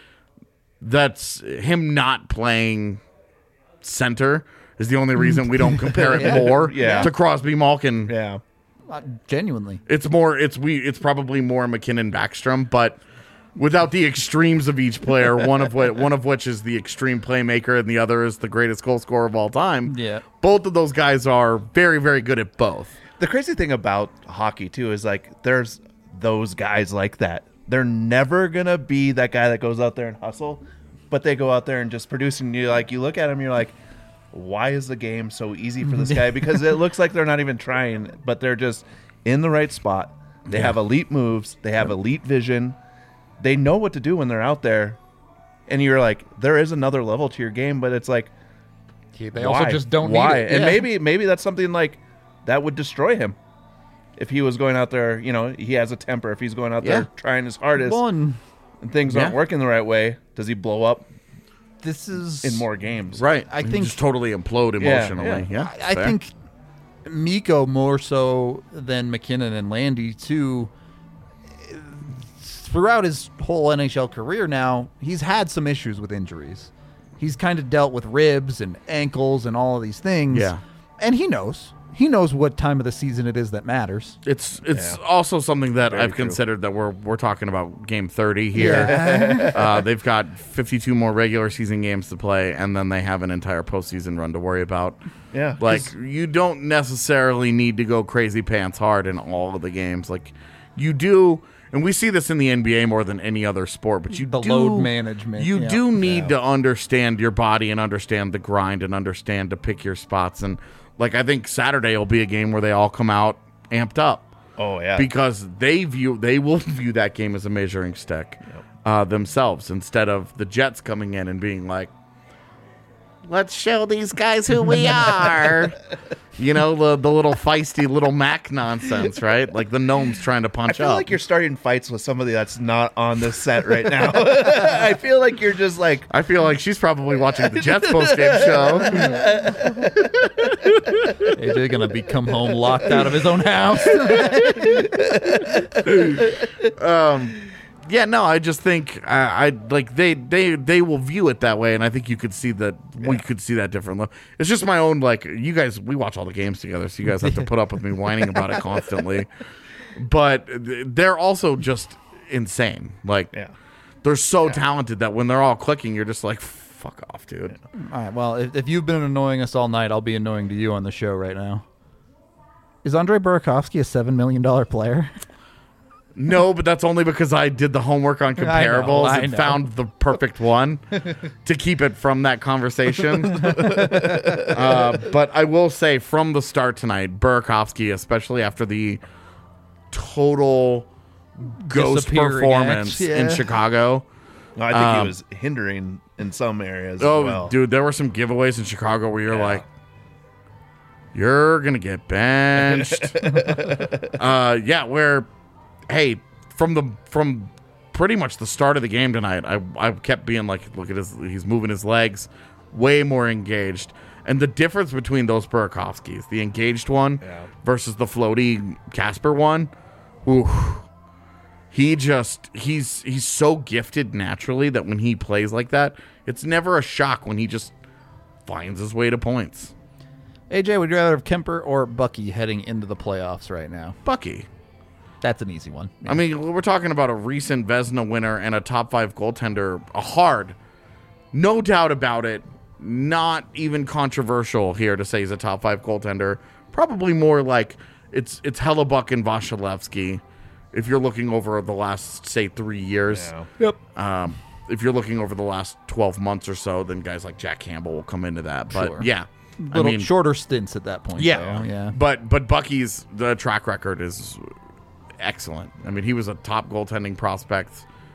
that's him not playing center is the only reason we don't compare it more Yeah. to Crosby Malkin. Yeah. Uh, genuinely. It's more. It's we. It's probably more McKinnon Backstrom, but without the extremes of each player. One of which, one of which is the extreme playmaker, and the other is the greatest goal scorer of all time. Yeah. Both of those guys are very, very good at both. The crazy thing about hockey too is like there's those guys like that. They're never gonna be that guy that goes out there and hustle, but they go out there and just produce. And you like you look at them, you're like, why is the game so easy for this guy? Because it looks like they're not even trying, but they're just in the right spot. They have elite moves. They have elite vision. They know what to do when they're out there. And you're like, there is another level to your game, but it's like, Yeah, they why? also just don't why? need it. And Yeah. maybe maybe that's something like that would destroy him if he was going out there. You know, he has a temper. If he's going out Yeah. there trying his hardest One, and things Yeah. aren't working the right way, does he blow up this is in more games? Right. I You think- just totally implode emotionally. Yeah. I, I fair. think Miko more so than McKinnon and Landy too. Throughout his whole N H L career now, he's had some issues with injuries. He's kind of dealt with ribs and ankles and all of these things. Yeah. And he knows. He knows what time of the season it is that matters. It's it's Yeah. also something that Very I've true. considered that we're we're talking about game thirty here. uh, they've got fifty-two more regular season games to play, and then they have an entire postseason run to worry about. Yeah. Like you don't necessarily need to go crazy pants hard in all of the games. Like you do, and we see this in the N B A more than any other sport. But you The do, load management, You yeah. do need to understand your body and understand the grind and understand to pick your spots. And like I think Saturday will be a game where they all come out amped up. Oh yeah. Because they view they will view that game as a measuring stick uh, themselves, instead of the Jets coming in and being like, let's show these guys who we are. You know, the the little feisty little Mac nonsense, right? Like the gnomes trying to I punch feel up. like you're starting fights with somebody that's not on this set right now. I feel like you're just like, I feel like she's probably watching the Jets post-game show. A J gonna be come home locked out of his own house. Yeah, no, I just think I, I like they, they they will view it that way, and I think you could see that we could see that differently. It's just my own like you guys. We watch all the games together, so you guys have to put up with me whining about it constantly. But they're also just insane. Like yeah. they're so talented that when they're all clicking, you're just like, fuck off, dude. All right. Well, if, if you've been annoying us all night, I'll be annoying to you on the show right now. Is Andre Burakovsky a seven million dollar player? No, but that's only because I did the homework on I know, comparables I and know. found the perfect one to keep it from that conversation. uh, but I will say from the start tonight, Burakovsky, especially after the total ghost Disappearing performance act, yeah. in Chicago. No, I think Um, he was hindering in some areas Oh, as well. dude, there were some giveaways in Chicago where you're Yeah. like, you're going to get benched. uh, yeah, where, hey, from the from pretty much the start of the game tonight, I, I kept being like, look at his, he's moving his legs, way more engaged. And the difference between those Burakovskys, the engaged one Yeah. versus the floaty Casper one, ooh, he just, he's he's so gifted naturally that when he plays like that, it's never a shock when he just finds his way to points. A J, would you rather have Kemper or Bucky heading into the playoffs right now? Bucky. That's an easy one. I mean, we're talking about a recent Vezina winner and a top five goaltender, a hard, no doubt about it, not even controversial here to say he's a top five goaltender. Probably more like it's it's Hellebuck and Vasilevsky if you're looking over the last, say, three years. Yeah. Yep. Um, if you're looking over the last twelve months or so, then guys like Jack Campbell will come into that. But Sure. yeah, Little I mean, shorter stints at that point. yeah, though. Yeah. But but Bucky's the track record is excellent. I mean, he was a top goaltending prospect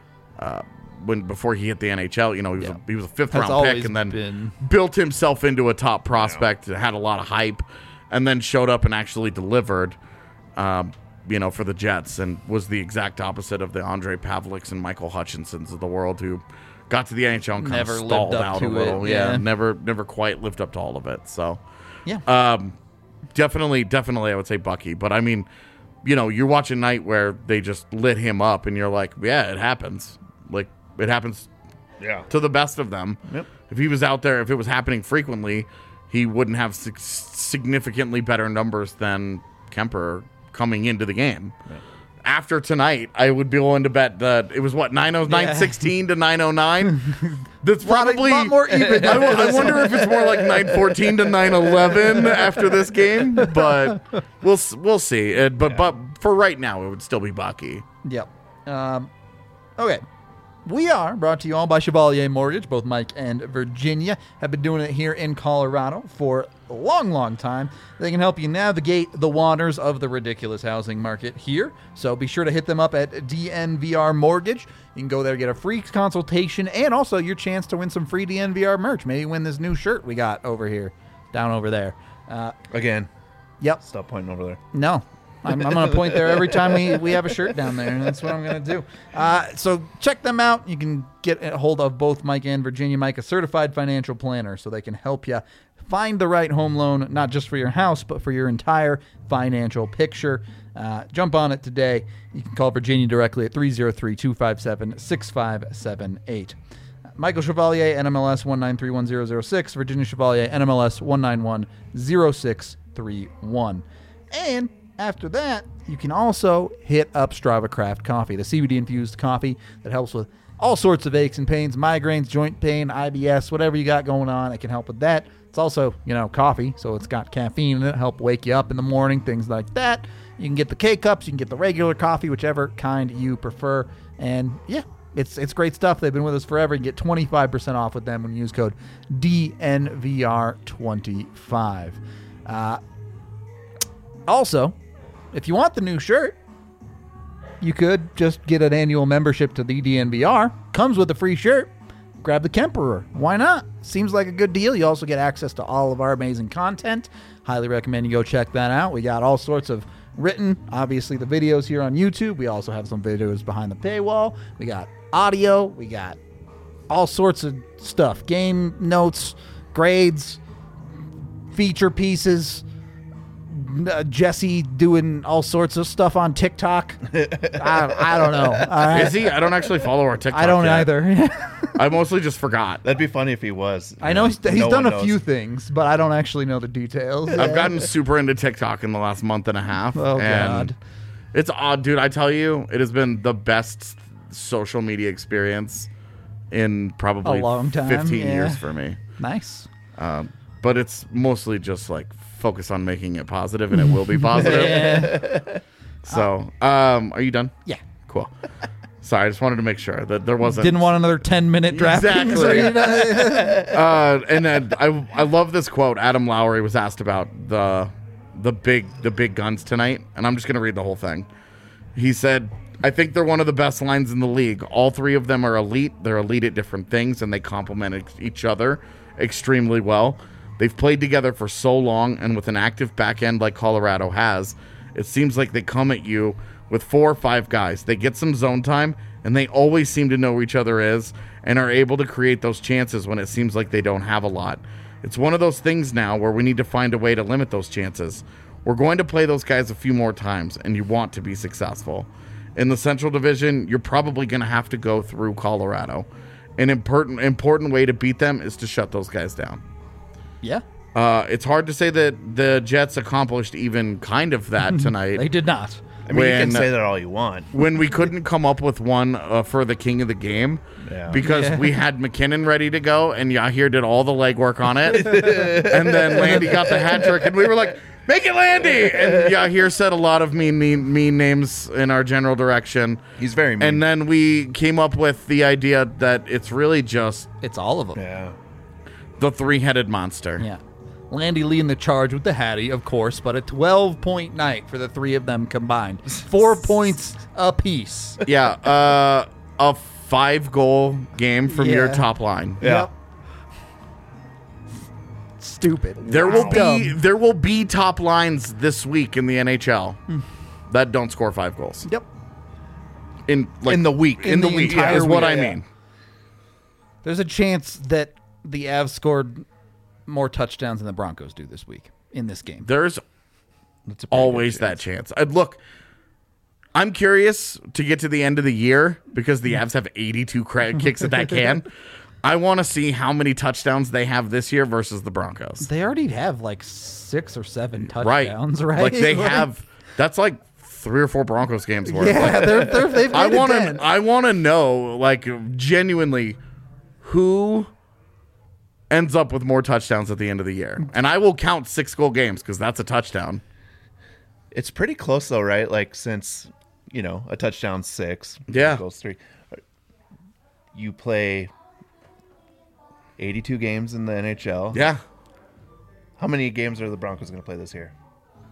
uh, when before he hit the N H L. You know, he was Yeah. a, he was a fifth Has round always pick, and then been- built himself into a top prospect. Had a lot of hype, and then showed up and actually delivered. Um, you know, for the Jets, and was the exact opposite of the Andre Pavliks and Michael Hutchinsons of the world, who got to the N H L and kind Never of lived stalled up out to a little. it, Yeah, yeah. never never quite lived up to all of it. So Yeah. um, definitely, definitely, I would say Bucky. But I mean, you know, you're watching night where they just lit him up, and you're like, yeah, it happens. Like it happens Yeah. to the best of them. Yep. If he was out there, if it was happening frequently, he wouldn't have sig- significantly better numbers than Kemper coming into the game. After tonight, I would be willing to bet that it was what nine oh nine Yeah. sixteen to nine oh nine. That's Lot- probably lot more even. I, wo- I wonder if it's more like nine fourteen to nine eleven after this game, but we'll s- we'll see. Uh, but but for right now, it would still be Bucky. Yep. Um, okay. We are brought to you all by Chevalier Mortgage. Both Mike and Virginia have been doing it here in Colorado for a long, long time. They can help you navigate the waters of the ridiculous housing market here. So be sure to hit them up at D N V R Mortgage. You can go there, get a free consultation, and also your chance to win some free D N V R merch. Maybe win this new shirt we got over here, down over there. Uh, Again, yep. stop pointing over there. No. I'm, I'm going to point there every time we, we have a shirt down there. And that's what I'm going to do. Uh, so check them out. You can get a hold of both Mike and Virginia. Mike, a certified financial planner, so they can help you find the right home loan, not just for your house, but for your entire financial picture. Uh, jump on it today. You can call Virginia directly at three oh three, two five seven, six five seven eight. Michael Chevalier, N M L S one nine three one zero zero six. Virginia Chevalier, N M L S one nine one zero six three one. And after that, you can also hit up Strava Craft Coffee, the C B D-infused coffee that helps with all sorts of aches and pains, migraines, joint pain, I B S, whatever you got going on. It can help with that. It's also, you know, coffee, so it's got caffeine in it, help wake you up in the morning, things like that. You can get the K-Cups, you can get the regular coffee, whichever kind you prefer. And, yeah, it's it's great stuff. They've been with us forever. You can get twenty-five percent off with them when you use code D N V R twenty-five. Uh, also, if you want the new shirt, you could just get an annual membership to the D N V R. Comes with a free shirt. Grab the Kemperer. Why not? Seems like a good deal. You also get access to all of our amazing content. Highly recommend you go check that out. We got all sorts of written, obviously the videos here on YouTube. We also have some videos behind the paywall. We got audio. We got all sorts of stuff. Game notes, grades, feature pieces, uh, Jesse doing all sorts of stuff on TikTok. I, I don't know. All right? Is he? I don't actually follow our TikTok. I don't yet. either. I mostly just forgot. That'd be funny if he was. I know he's, he's No done one a knows. few things, but I don't actually know the details. I've gotten super into TikTok in the last month and a half. Oh, and God. It's odd, dude. I tell you, it has been the best social media experience in probably A long time, fifteen yeah. years for me. Nice. Um, but it's mostly just like focus on making it positive, and it will be positive. Yeah. So, um, are you done? Yeah. Cool. Sorry, I just wanted to make sure that there wasn't. Didn't want another ten minute draft. Exactly. uh, and then I I love this quote. Adam Lowry was asked about the the big the big guns tonight, and I'm just gonna read the whole thing. He said, "I think they're one of the best lines in the league. All three of them are elite. They're elite at different things, and they complement ex- each other extremely well. They've played together for so long, and with an active back end like Colorado has, it seems like they come at you with four or five guys. They get some zone time, and they always seem to know who each other is and are able to create those chances when it seems like they don't have a lot. It's one of those things now where we need to find a way to limit those chances. We're going to play those guys a few more times, and you want to be successful. In the Central Division, you're probably going to have to go through Colorado. An important important way to beat them is to shut those guys down." Yeah. Uh, it's hard to say that the Jets accomplished even kind of that tonight. They did not. I mean, you when, can say that all you want. when we couldn't come up with one uh, for the king of the game Yeah. because Yeah. we had McKinnon ready to go and Yahir did all the legwork on it. And then Landy got the hat trick and we were like, make it Landy! And Yahir said a lot of mean, mean, mean names in our general direction. He's very mean. And then we came up with the idea that it's really just It's all of them. yeah. the three-headed monster. Yeah. Landy leading the charge with the Hattie, of course, but a twelve-point night for the three of them combined. Four points apiece. Yeah, uh, a five-goal game from your Yeah. top line. Yeah. Stupid. There will be Dumb. there will be top lines this week in the N H L that don't score five goals Yep. in like In the week. In, the, the week entire is what week, I yeah. mean. There's a chance that the Avs scored more touchdowns than the Broncos do this week in this game. There's That's a pretty always good that chance. I'd look. I'm curious to get to the end of the year because the Avs have eighty-two cra- kicks at that can. I want to see how many touchdowns they have this year versus the Broncos. They already have like six or seven Right. touchdowns, right? Like they have. That's like three or four Broncos games worth. Yeah, Like, they're, they're, they've I made it want ten. to. I want to know, like, genuinely, who ends up with more touchdowns at the end of the year, and I will count six goal games because that's a touchdown. It's pretty close though, right? Like since you know a touchdown six, Yeah. goals three. You play eighty-two games in the N H L. Yeah, How many games are the Broncos going to play this year?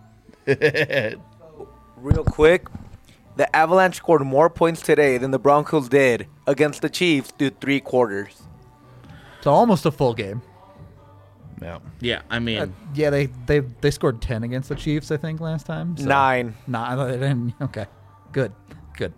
Real quick, the Avalanche scored more points today than the Broncos did against the Chiefs through three quarters. So almost a full game. No. yeah. I mean, Uh, yeah, they, they they scored ten against the Chiefs, I think, last time. So. Nine. Nah, they didn't. Okay, good, good.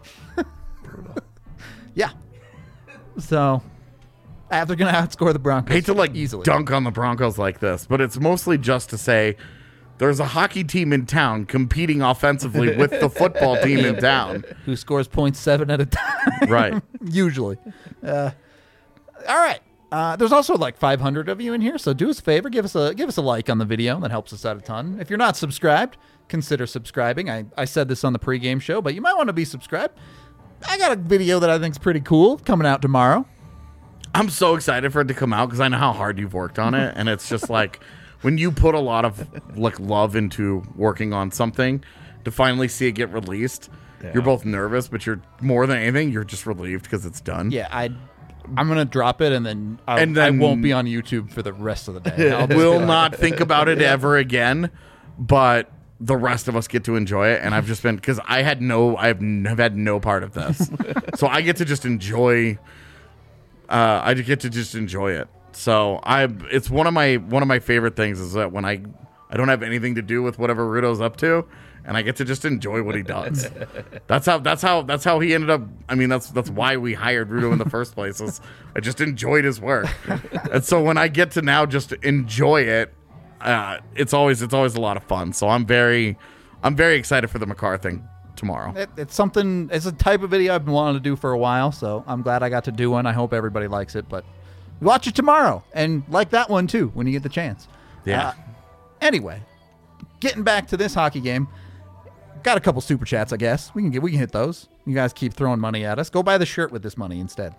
Yeah. So, uh, they're gonna outscore the Broncos. I hate to like easily. dunk on the Broncos like this, but it's mostly just to say there's a hockey team in town competing offensively with the football team in town. Who scores point seven at a time? Right. Usually. Uh, all right. Uh, there's also like five hundred of you in here, so do us a favor, give us a give us a like on the video. That helps us out a ton. If you're not subscribed, consider subscribing. I, I said this on the pregame show, but you might want to be subscribed. I got a video that I think's pretty cool coming out tomorrow. I'm so excited for it to come out because I know how hard you've worked on it, and it's just like when you put a lot of like love into working on something, to finally see it get released, Yeah. you're both nervous, but you're more than anything, you're just relieved because it's done. Yeah, I I'm gonna drop it, and then, I'll, And then- I won't be on YouTube for the rest of the day. I'll just Will be like, not think about it ever again, but the rest of us get to enjoy it, and I've just been because I had no, I've n- have had no part of this, so I get to just enjoy. Uh, I get to just enjoy it. So I, it's one of my one of my favorite things is that when I I don't have anything to do with whatever Rudo's up to, and I get to just enjoy what he does. That's how that's how that's how he ended up. I mean, that's that's why we hired Rudo in the first place. Is I just enjoyed his work, and so when I get to now just enjoy it. Uh, it's always it's always a lot of fun. So I'm very I'm very excited for the Makar thing tomorrow. It, it's something. It's a type of video I've been wanting to do for a while, so I'm glad I got to do one. I hope everybody likes it. But watch it tomorrow and like that one too when you get the chance. Yeah. Uh, anyway, getting back to this hockey game, got a couple super chats. I guess we can get we can hit those. You guys keep throwing money at us. Go buy the shirt with this money instead.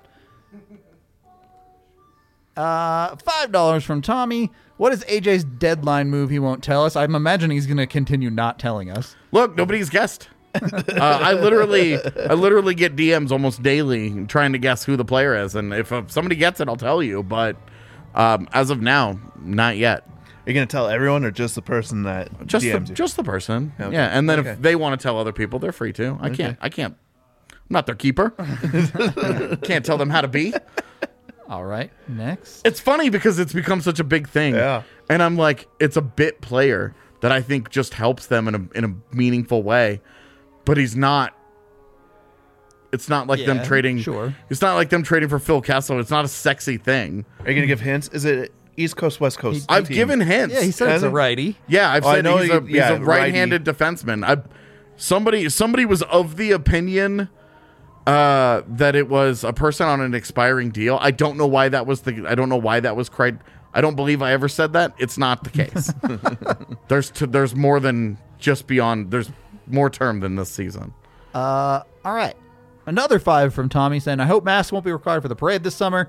Uh, five dollars from Tommy. What is A J's deadline move he won't tell us? I'm imagining he's going to continue not telling us. Look, nobody's guessed. uh, I literally I literally get D Ms almost daily trying to guess who the player is, and if uh, somebody gets it, I'll tell you. But um, as of now, not yet. Are you going to tell everyone or just the person that Just D Ms the, you? just the person. Okay. Yeah, and then Okay. if they want to tell other people, they're free to. I can't. I can't. I'm not their keeper. Can't tell them how to be. All right, next. It's funny because it's become such a big thing. Yeah. And I'm like, it's a bit player that I think just helps them in a in a meaningful way. But he's not it's not like them Yeah, trading sure. It's not like them trading for Phil Kessel. It's not a sexy thing. Are you going to give hints? Is it East Coast, West Coast? I've team? given hints. Yeah, he said it's a Hasn't- righty. Yeah, I've Oh, I said know he's, you- a, he's yeah, a right-handed defenseman. I somebody somebody was of the opinion uh, that it was a person on an expiring deal. I don't know why that was the. I don't know why that was cried. I don't believe I ever said that. It's not the case. there's t- there's more than just beyond. There's more term than this season. Uh, all right. Another five from Tommy saying, I hope masks won't be required for the parade this summer.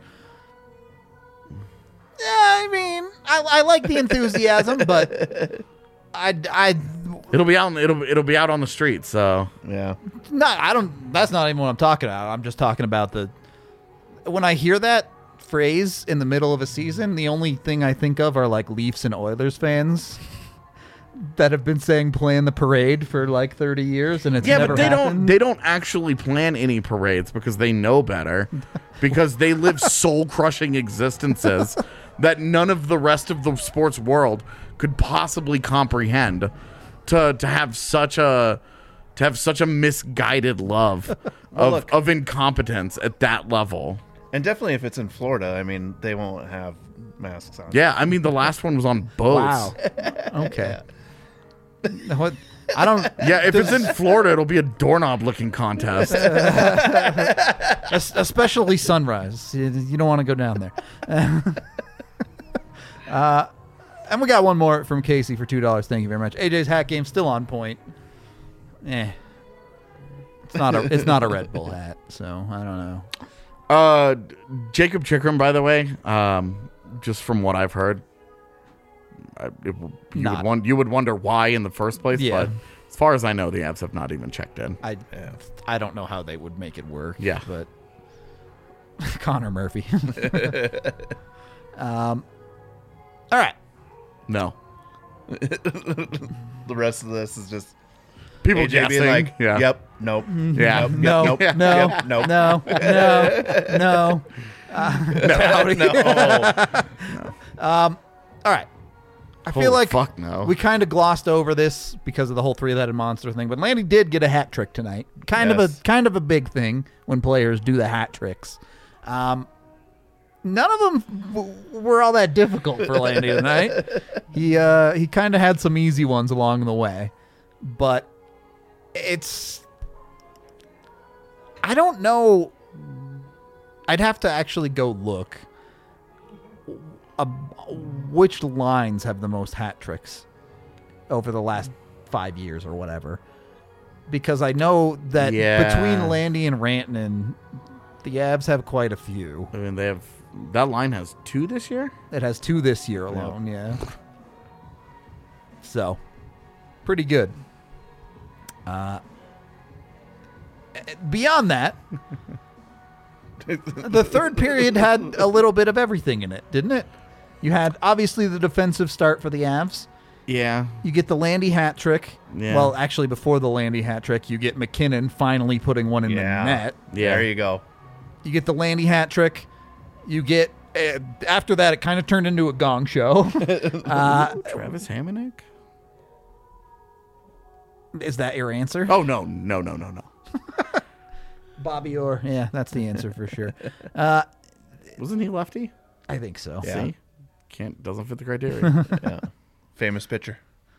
Yeah, I mean, I, I like the enthusiasm, but I, I, It'll be out. It'll it'll be out on the streets. So Yeah. not, I don't, that's not even what I'm talking about. I'm just talking about the, when I hear that phrase in the middle of a season, the only thing I think of are like Leafs and Oilers fans that have been saying plan the parade for like thirty years, and it's yeah, never but they don't. happened. They don't actually plan any parades because they know better, because they live soul crushing existences that none of the rest of the sports world could possibly comprehend. To to have such a to have such a misguided love Well, of look. of incompetence at that level. And definitely if it's in Florida, I mean, they won't have masks on. Yeah, I mean the last one was on boats. Wow. Okay. What? I don't. Yeah, if it's in Florida, it'll be a doorknob licking contest. es- Especially sunrise. You, you don't want to go down there. uh, and we got one more from Casey for two dollars. Thank you very much. A J's hat game still on point. Eh. It's not a. It's not a Red Bull hat, so I don't know. Uh, Jacob Chikrin, by the way, um, just from what I've heard, I, it, you, Not. would won- you would wonder why in the first place. Yeah. But as far as I know, the Avs have not even checked in. I. I don't know how they would make it work. Yeah. But Connor Murphy. um. All right. No. The rest of this is just People A J guessing. being like, yeah. yep, nope. Yeah. Nope, No. yep, nope, No. yep, nope. No. No. No. No. All right. I Holy feel like fuck no. we kind of glossed over this because of the whole three-legged monster thing, but Landy did get a hat trick tonight. Kind of Yes. a kind of a big thing when players do the hat tricks. Um, none of them w- were all that difficult for Landy tonight. He uh, he kind of had some easy ones along the way, but it's I don't know. I'd have to actually go look. Uh, which lines have the most hat tricks over the last five years or whatever? Because I know that Yeah. between Landy and Rantanen, the Avs have quite a few. I mean, they have that line has two this year. It has two this year alone, yeah. So, pretty good. Uh, beyond that, the third period had a little bit of everything in it, didn't it? You had, obviously, the defensive start for the Avs. Yeah. You get the Landy hat trick. Yeah. Well, actually, before the Landy hat trick, you get McKinnon finally putting one in Yeah. the net. Yeah. There you go. You get the Landy hat trick. You get, uh, after that, it kind of turned into a gong show. uh, Travis Hamonic? is that your answer? Oh no, no, no, no, no. Bobby Orr. Yeah, that's the answer for sure. Uh, Wasn't he lefty? I think so. Yeah. See? Can't doesn't fit the criteria. Yeah. Famous pitcher.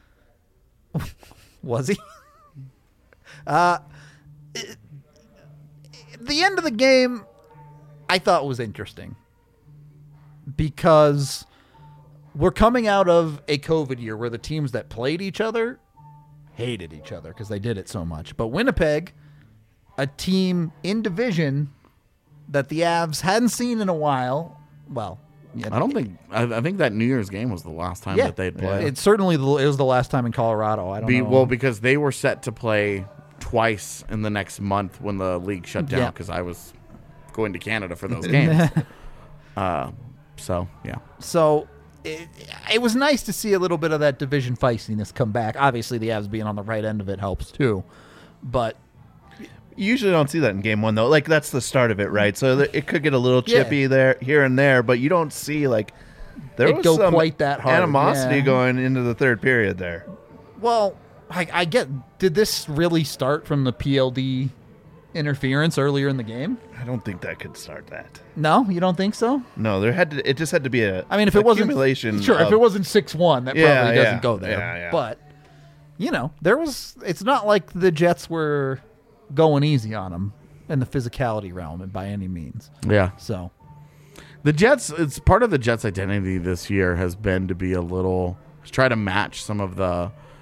Was he? uh, it- the end of the game, I thought was interesting because we're coming out of a COVID year where the teams that played each other hated each other because they did it so much. But Winnipeg, a team in division that the Avs hadn't seen in a while, well, yeah, I don't think. I, I think that New Year's game was the last time yeah, that they'd played. it's certainly the, it was the last time in Colorado. I don't Be, know. well, because they were set to play twice in the next month when the league shut down. Yeah. Because I was going to Canada for those games. uh, so yeah, So it, it was nice to see a little bit of that division feistiness come back. Obviously, the Avs being on the right end of it helps too. But You usually don't see that in game one, though. Like, that's the start of it, right? So th- it could get a little Yeah. chippy there, here and there, but you don't see, like, there It was go some quite that hard, animosity yeah. going into the third period there. well, I, I get. Did this really start from the P L D interference earlier in the game? I don't think that could start that. No, you don't think so? No, there had to. It just had to be a. I mean, if it wasn't accumulation sure, if of- it wasn't six one, that Yeah, probably yeah, doesn't go there. yeah, yeah. But you know, there was. It's not like the Jets were going easy on them in the physicality realm, and by any means. yeah. So The Jets. It's part of the Jets' identity this year has been to be a little to try to match some of the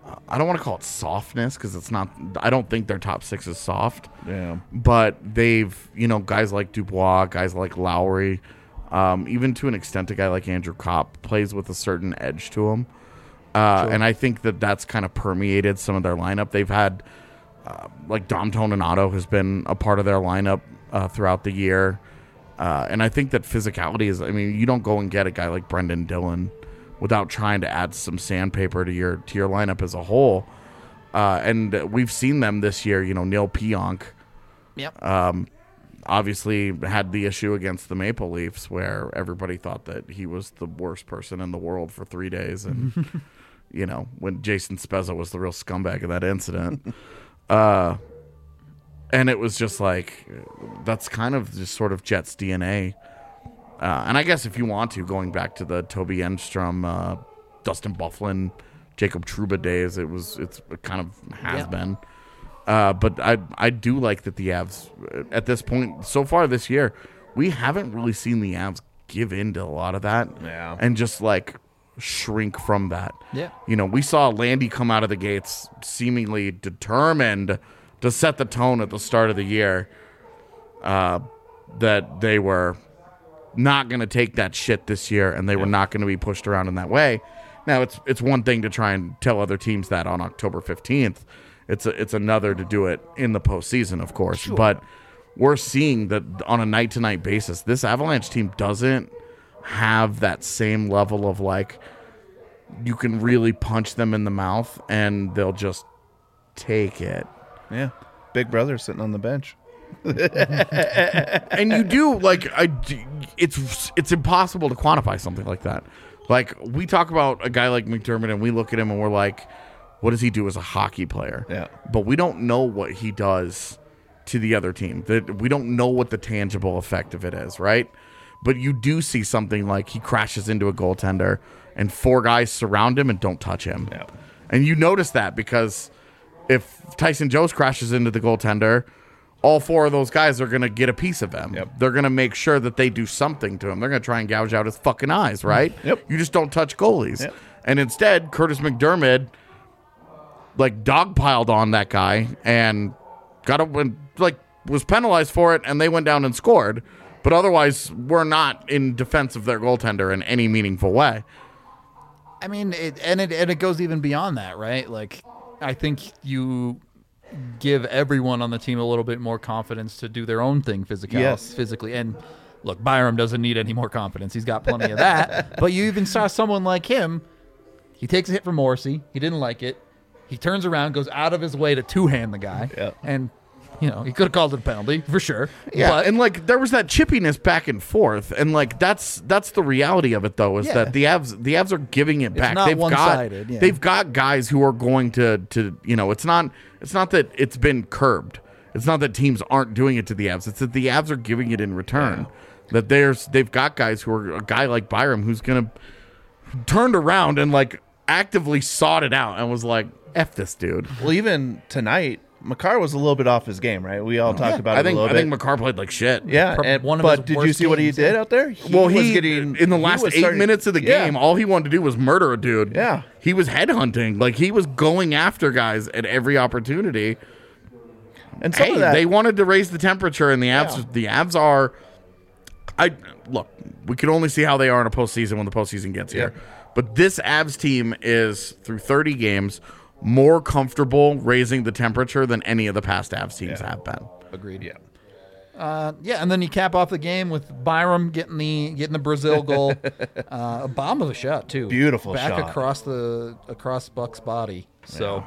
I don't want to call it softness because it's not. I don't think their top six is soft. Yeah. But they've, you know, guys like Dubois, guys like Lowry, um, even to an extent, a guy like Andrew Kopp plays with a certain edge to him. Uh, Sure. And I think that that's kind of permeated some of their lineup. They've had, uh, like, Dom Toninato has been a part of their lineup uh, throughout the year. Uh, and I think that physicality is, I mean, you don't go and get a guy like Brendan Dillon without trying to add some sandpaper to your to your lineup as a whole. Uh, and we've seen them this year, you know, Neil Pionk Yep. um, obviously had the issue against the Maple Leafs where everybody thought that he was the worst person in the world for three days. And, you know, when Jason Spezza was the real scumbag of that incident. Uh, and it was just like, that's kind of just sort of Jets D N A. Uh, and I guess if you want to, going back to the Toby Enstrom, uh, Dustin Byfuglien, Jacob Trouba days, it was it's it kind of has Yeah. been. Uh, but I I do like that the Avs at this point so far this year, we haven't really seen the Avs give in to a lot of that, Yeah. and just like shrink from that. Yeah. You know, we saw Landy come out of the gates seemingly determined to set the tone at the start of the year. Uh, that they were not going to take that shit this year, and they were not going to be pushed around in that way. Now, it's it's one thing to try and tell other teams that on October fifteenth. It's a, it's another to do it in the postseason, of course. But we're seeing that on a night-to-night basis, this Avalanche team doesn't have that same level of, like, you can really punch them in the mouth, and they'll just take it. Yeah. Big brother sitting on the bench. And you do like I d- it's it's impossible to quantify something like that. Like, we talk about a guy like McDermott and we look at him and we're like, what does he do as a hockey player? Yeah. But we don't know what he does to the other team. That we don't know what the tangible effect of it is, right? But you do see something like he crashes into a goaltender and four guys surround him and don't touch him. Yeah. And you notice that because if Tyson Jones crashes into the goaltender, all four of those guys are going to get a piece of him. Yep. They're going to make sure that they do something to him. They're going to try and gouge out his fucking eyes, right? Yep. You just don't touch goalies. Yep. And instead, Curtis McDermott, like, dogpiled on that guy and got up and, like, was penalized for it, and they went down and scored. But otherwise, we're not in defense of their goaltender in any meaningful way. I mean, it, and it and it goes even beyond that, right? Like, I think you give everyone on the team a little bit more confidence to do their own thing physically. Yes. physically. And look, Byram doesn't need any more confidence. He's got plenty of that. But you even saw someone like him. He takes a hit from Morrissey. He didn't like it. He turns around, goes out of his way to two-hand the guy. Yeah. And, you know, he could have called it a penalty for sure. Yeah, But, and like there was that chippiness back and forth, and like that's that's the reality of it, though, is Yeah. that the Avs the Avs are giving it back. not they've one-sided, got yeah. they've got guys who are going to to you know it's not it's not that it's been curbed. It's not that teams aren't doing it to the Avs. It's that the Avs are giving it in return. That there's they've got guys who are a guy like Byram who's gonna turned around and like actively sought it out and was like, F this dude. Well, even tonight, Makar was a little bit off his game, right? We all talked about I it think a I little think bit. McCarr played like shit. Yeah, Pro- and, one of but his did you worst see what he games, did yeah. out there? He Well, was he getting in the he last was eight starting- minutes of the Yeah. game, all he wanted to do was murder a dude. Yeah. He was headhunting. Like, he was going after guys at every opportunity. and some Hey, of that, they wanted to raise the temperature, and the Avs, Yeah. the Avs are. I look. We can only see how they are in a postseason when the postseason gets here. Yeah. But this Avs team is through thirty games more comfortable raising the temperature than any of the past Avs teams Yeah. have been. agreed. yeah, Uh, yeah, and then you cap off the game with Byram getting the getting the Brazil goal, uh, a bomb of a shot too, Beautiful back shot. across the across Buck's body. So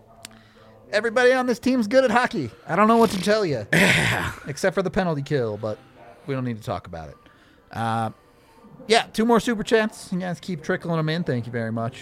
everybody on this team's good at hockey. I don't know what to tell you, except for the penalty kill, but we don't need to talk about it. Uh, yeah, two more super chats. You guys keep trickling them in. Thank you very much.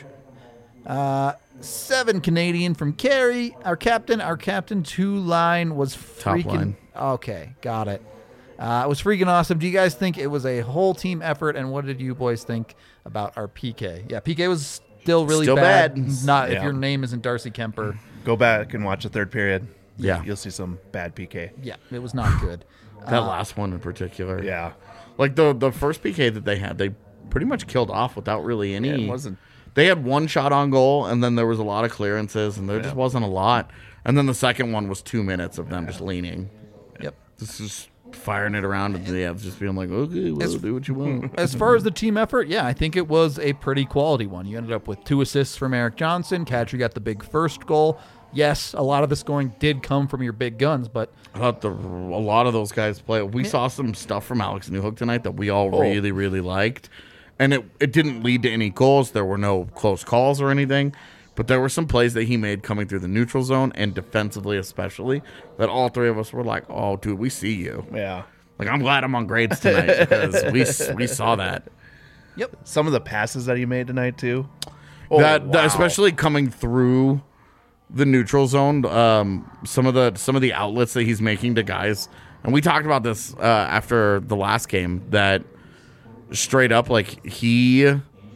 Uh, seven Canadian from Carey. Our captain, our captain two line was Top freaking. line. Okay, got it. Uh, it was freaking awesome. Do you guys think it was a whole team effort? And what did you boys think about our P K? Yeah, P K was still really Still bad. bad. Not if Yeah. your name isn't Darcy Kemper. go back and watch the third period. Yeah. You'll see some bad P K. Yeah, it was not good. That last one in particular. Yeah, Like the the first P K that they had, they pretty much killed off without really any. it wasn't. They had one shot on goal, and then there was a lot of clearances, and there just wasn't a lot. And then the second one was two minutes of them just leaning. Yep. This is firing it around, and the Avs just being like, okay, well, As- do what you want. As far as the team effort, yeah, I think it was a pretty quality one. You ended up with two assists from Eric Johnson. Kadri got the big first goal. Yes, a lot of the scoring did come from your big guns, but I thought the, a lot of those guys play. We saw some stuff from Alex Newhook tonight that we all really, really liked. And it, it didn't lead to any goals. There were no close calls or anything. But there were some plays that he made coming through the neutral zone and defensively especially that all three of us were like, oh, dude, we see you. Yeah. Like, I'm glad I'm on grades tonight because we we saw that. yep. Some of the passes that he made tonight too. Oh, that, that wow. especially coming through the neutral zone, um, some of the some of the outlets that he's making to guys, and we talked about this uh, after the last game, that straight up, like, he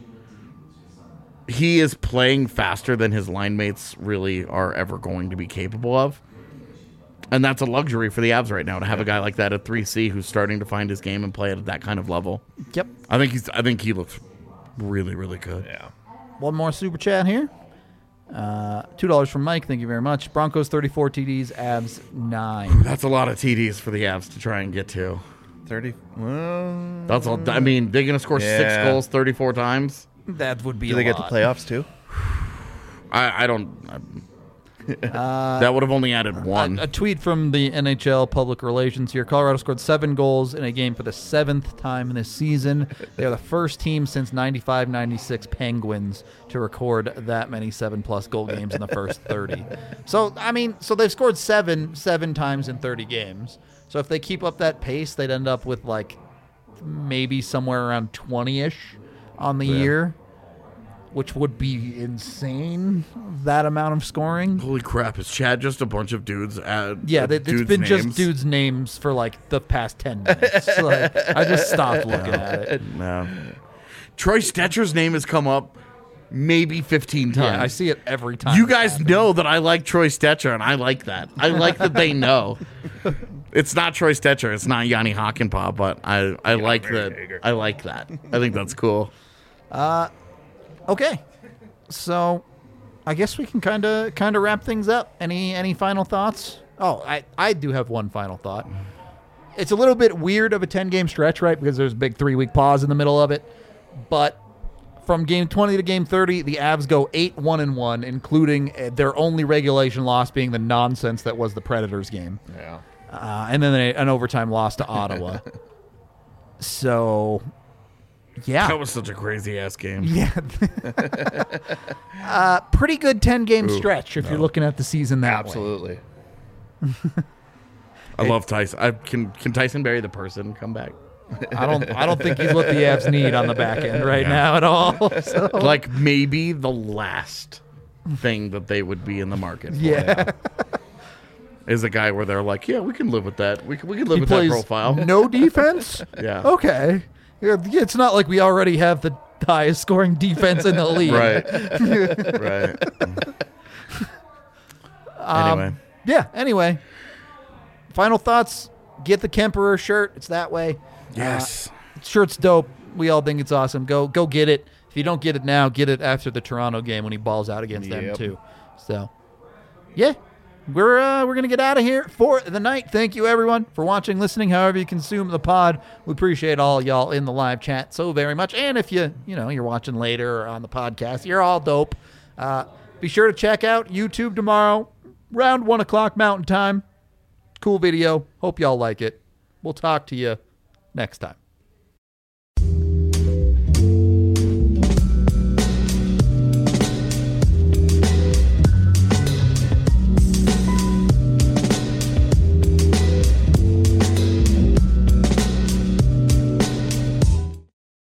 he is playing faster than his line mates really are ever going to be capable of. And that's a luxury for the Avs right now to have a guy like that at three C who's starting to find his game and play at that kind of level. Yep. I think he's I think he looks really, really good. Yeah. One more super chat here. Uh, two dollars from Mike. Thank you very much. Broncos thirty-four T Ds, Avs nine. That's a lot of T Ds for the Avs to try and get to. Thirty. Well, That's all. I mean, they're gonna score six Yeah. goals thirty-four times. That would be. do a they get the lot. playoffs too? I, I don't. I, that would have only added one. A, a tweet from the N H L public relations here. Colorado scored seven goals in a game for the seventh time this season. They are the first team since ninety-five ninety-six Penguins to record that many seven-plus goal games in the first thirty. So, I mean, so they've scored seven seven times in thirty games. So if they keep up that pace, they'd end up with, like, maybe somewhere around twenty-ish on the year, which would be insane, that amount of scoring. Holy crap! Is Chad just a bunch of dudes? At, Yeah, uh, they, it's dudes' been just names? dudes' names for like the past ten minutes. Like, I just stopped looking at it. No. Troy Stetcher's name has come up maybe fifteen times. Yeah, I see it every time. You it guys happens. know that I like Troy Stetcher, and I like that. I like that they know. It's not Troy Stetcher. It's not Yanni Hakanpää, but I, I like that. I like that. I think that's cool. Okay, so I guess we can kind of kind of wrap things up. Any any final thoughts? Oh, I I do have one final thought. It's a little bit weird of a ten game stretch, right? Because there's a big three week pause in the middle of it, but from game twenty to game thirty, the Avs go eight one and one, including uh, their only regulation loss being the nonsense that was the Predators game. Yeah. Uh, and then a, an overtime loss to Ottawa. So, yeah. That was such a crazy ass game. Yeah. uh, pretty good ten game stretch if you're looking at the season that way. Absolutely. I love Tyson. I, can can Tyson Berry the person come back? I don't I don't think he's what the Avs need on the back end right now at all. So, Like maybe the last thing that they would be in the market for yeah. is a guy where they're like, yeah, we can live with that. We can, we can live He with that plays profile. no defense? Yeah. Okay. Yeah, it's not like we already have the highest scoring defense in the league. Right. Right. Anyway. Yeah, anyway. Final thoughts. Get the Kemperer shirt. It's that way. Yes. Shirt's dope. We all think it's awesome. Go go get it. If you don't get it now, get it after the Toronto game when he balls out against them Yep. too. So, yeah, we're uh, we're gonna get out of here for the night. Thank you everyone for watching, listening, however you consume the pod. We appreciate all y'all in the live chat so very much. And if you you know you're watching later or on the podcast, you're all dope. Uh, be sure to check out YouTube tomorrow, around one o'clock Mountain Time. Cool video. Hope y'all like it. We'll talk to you next time.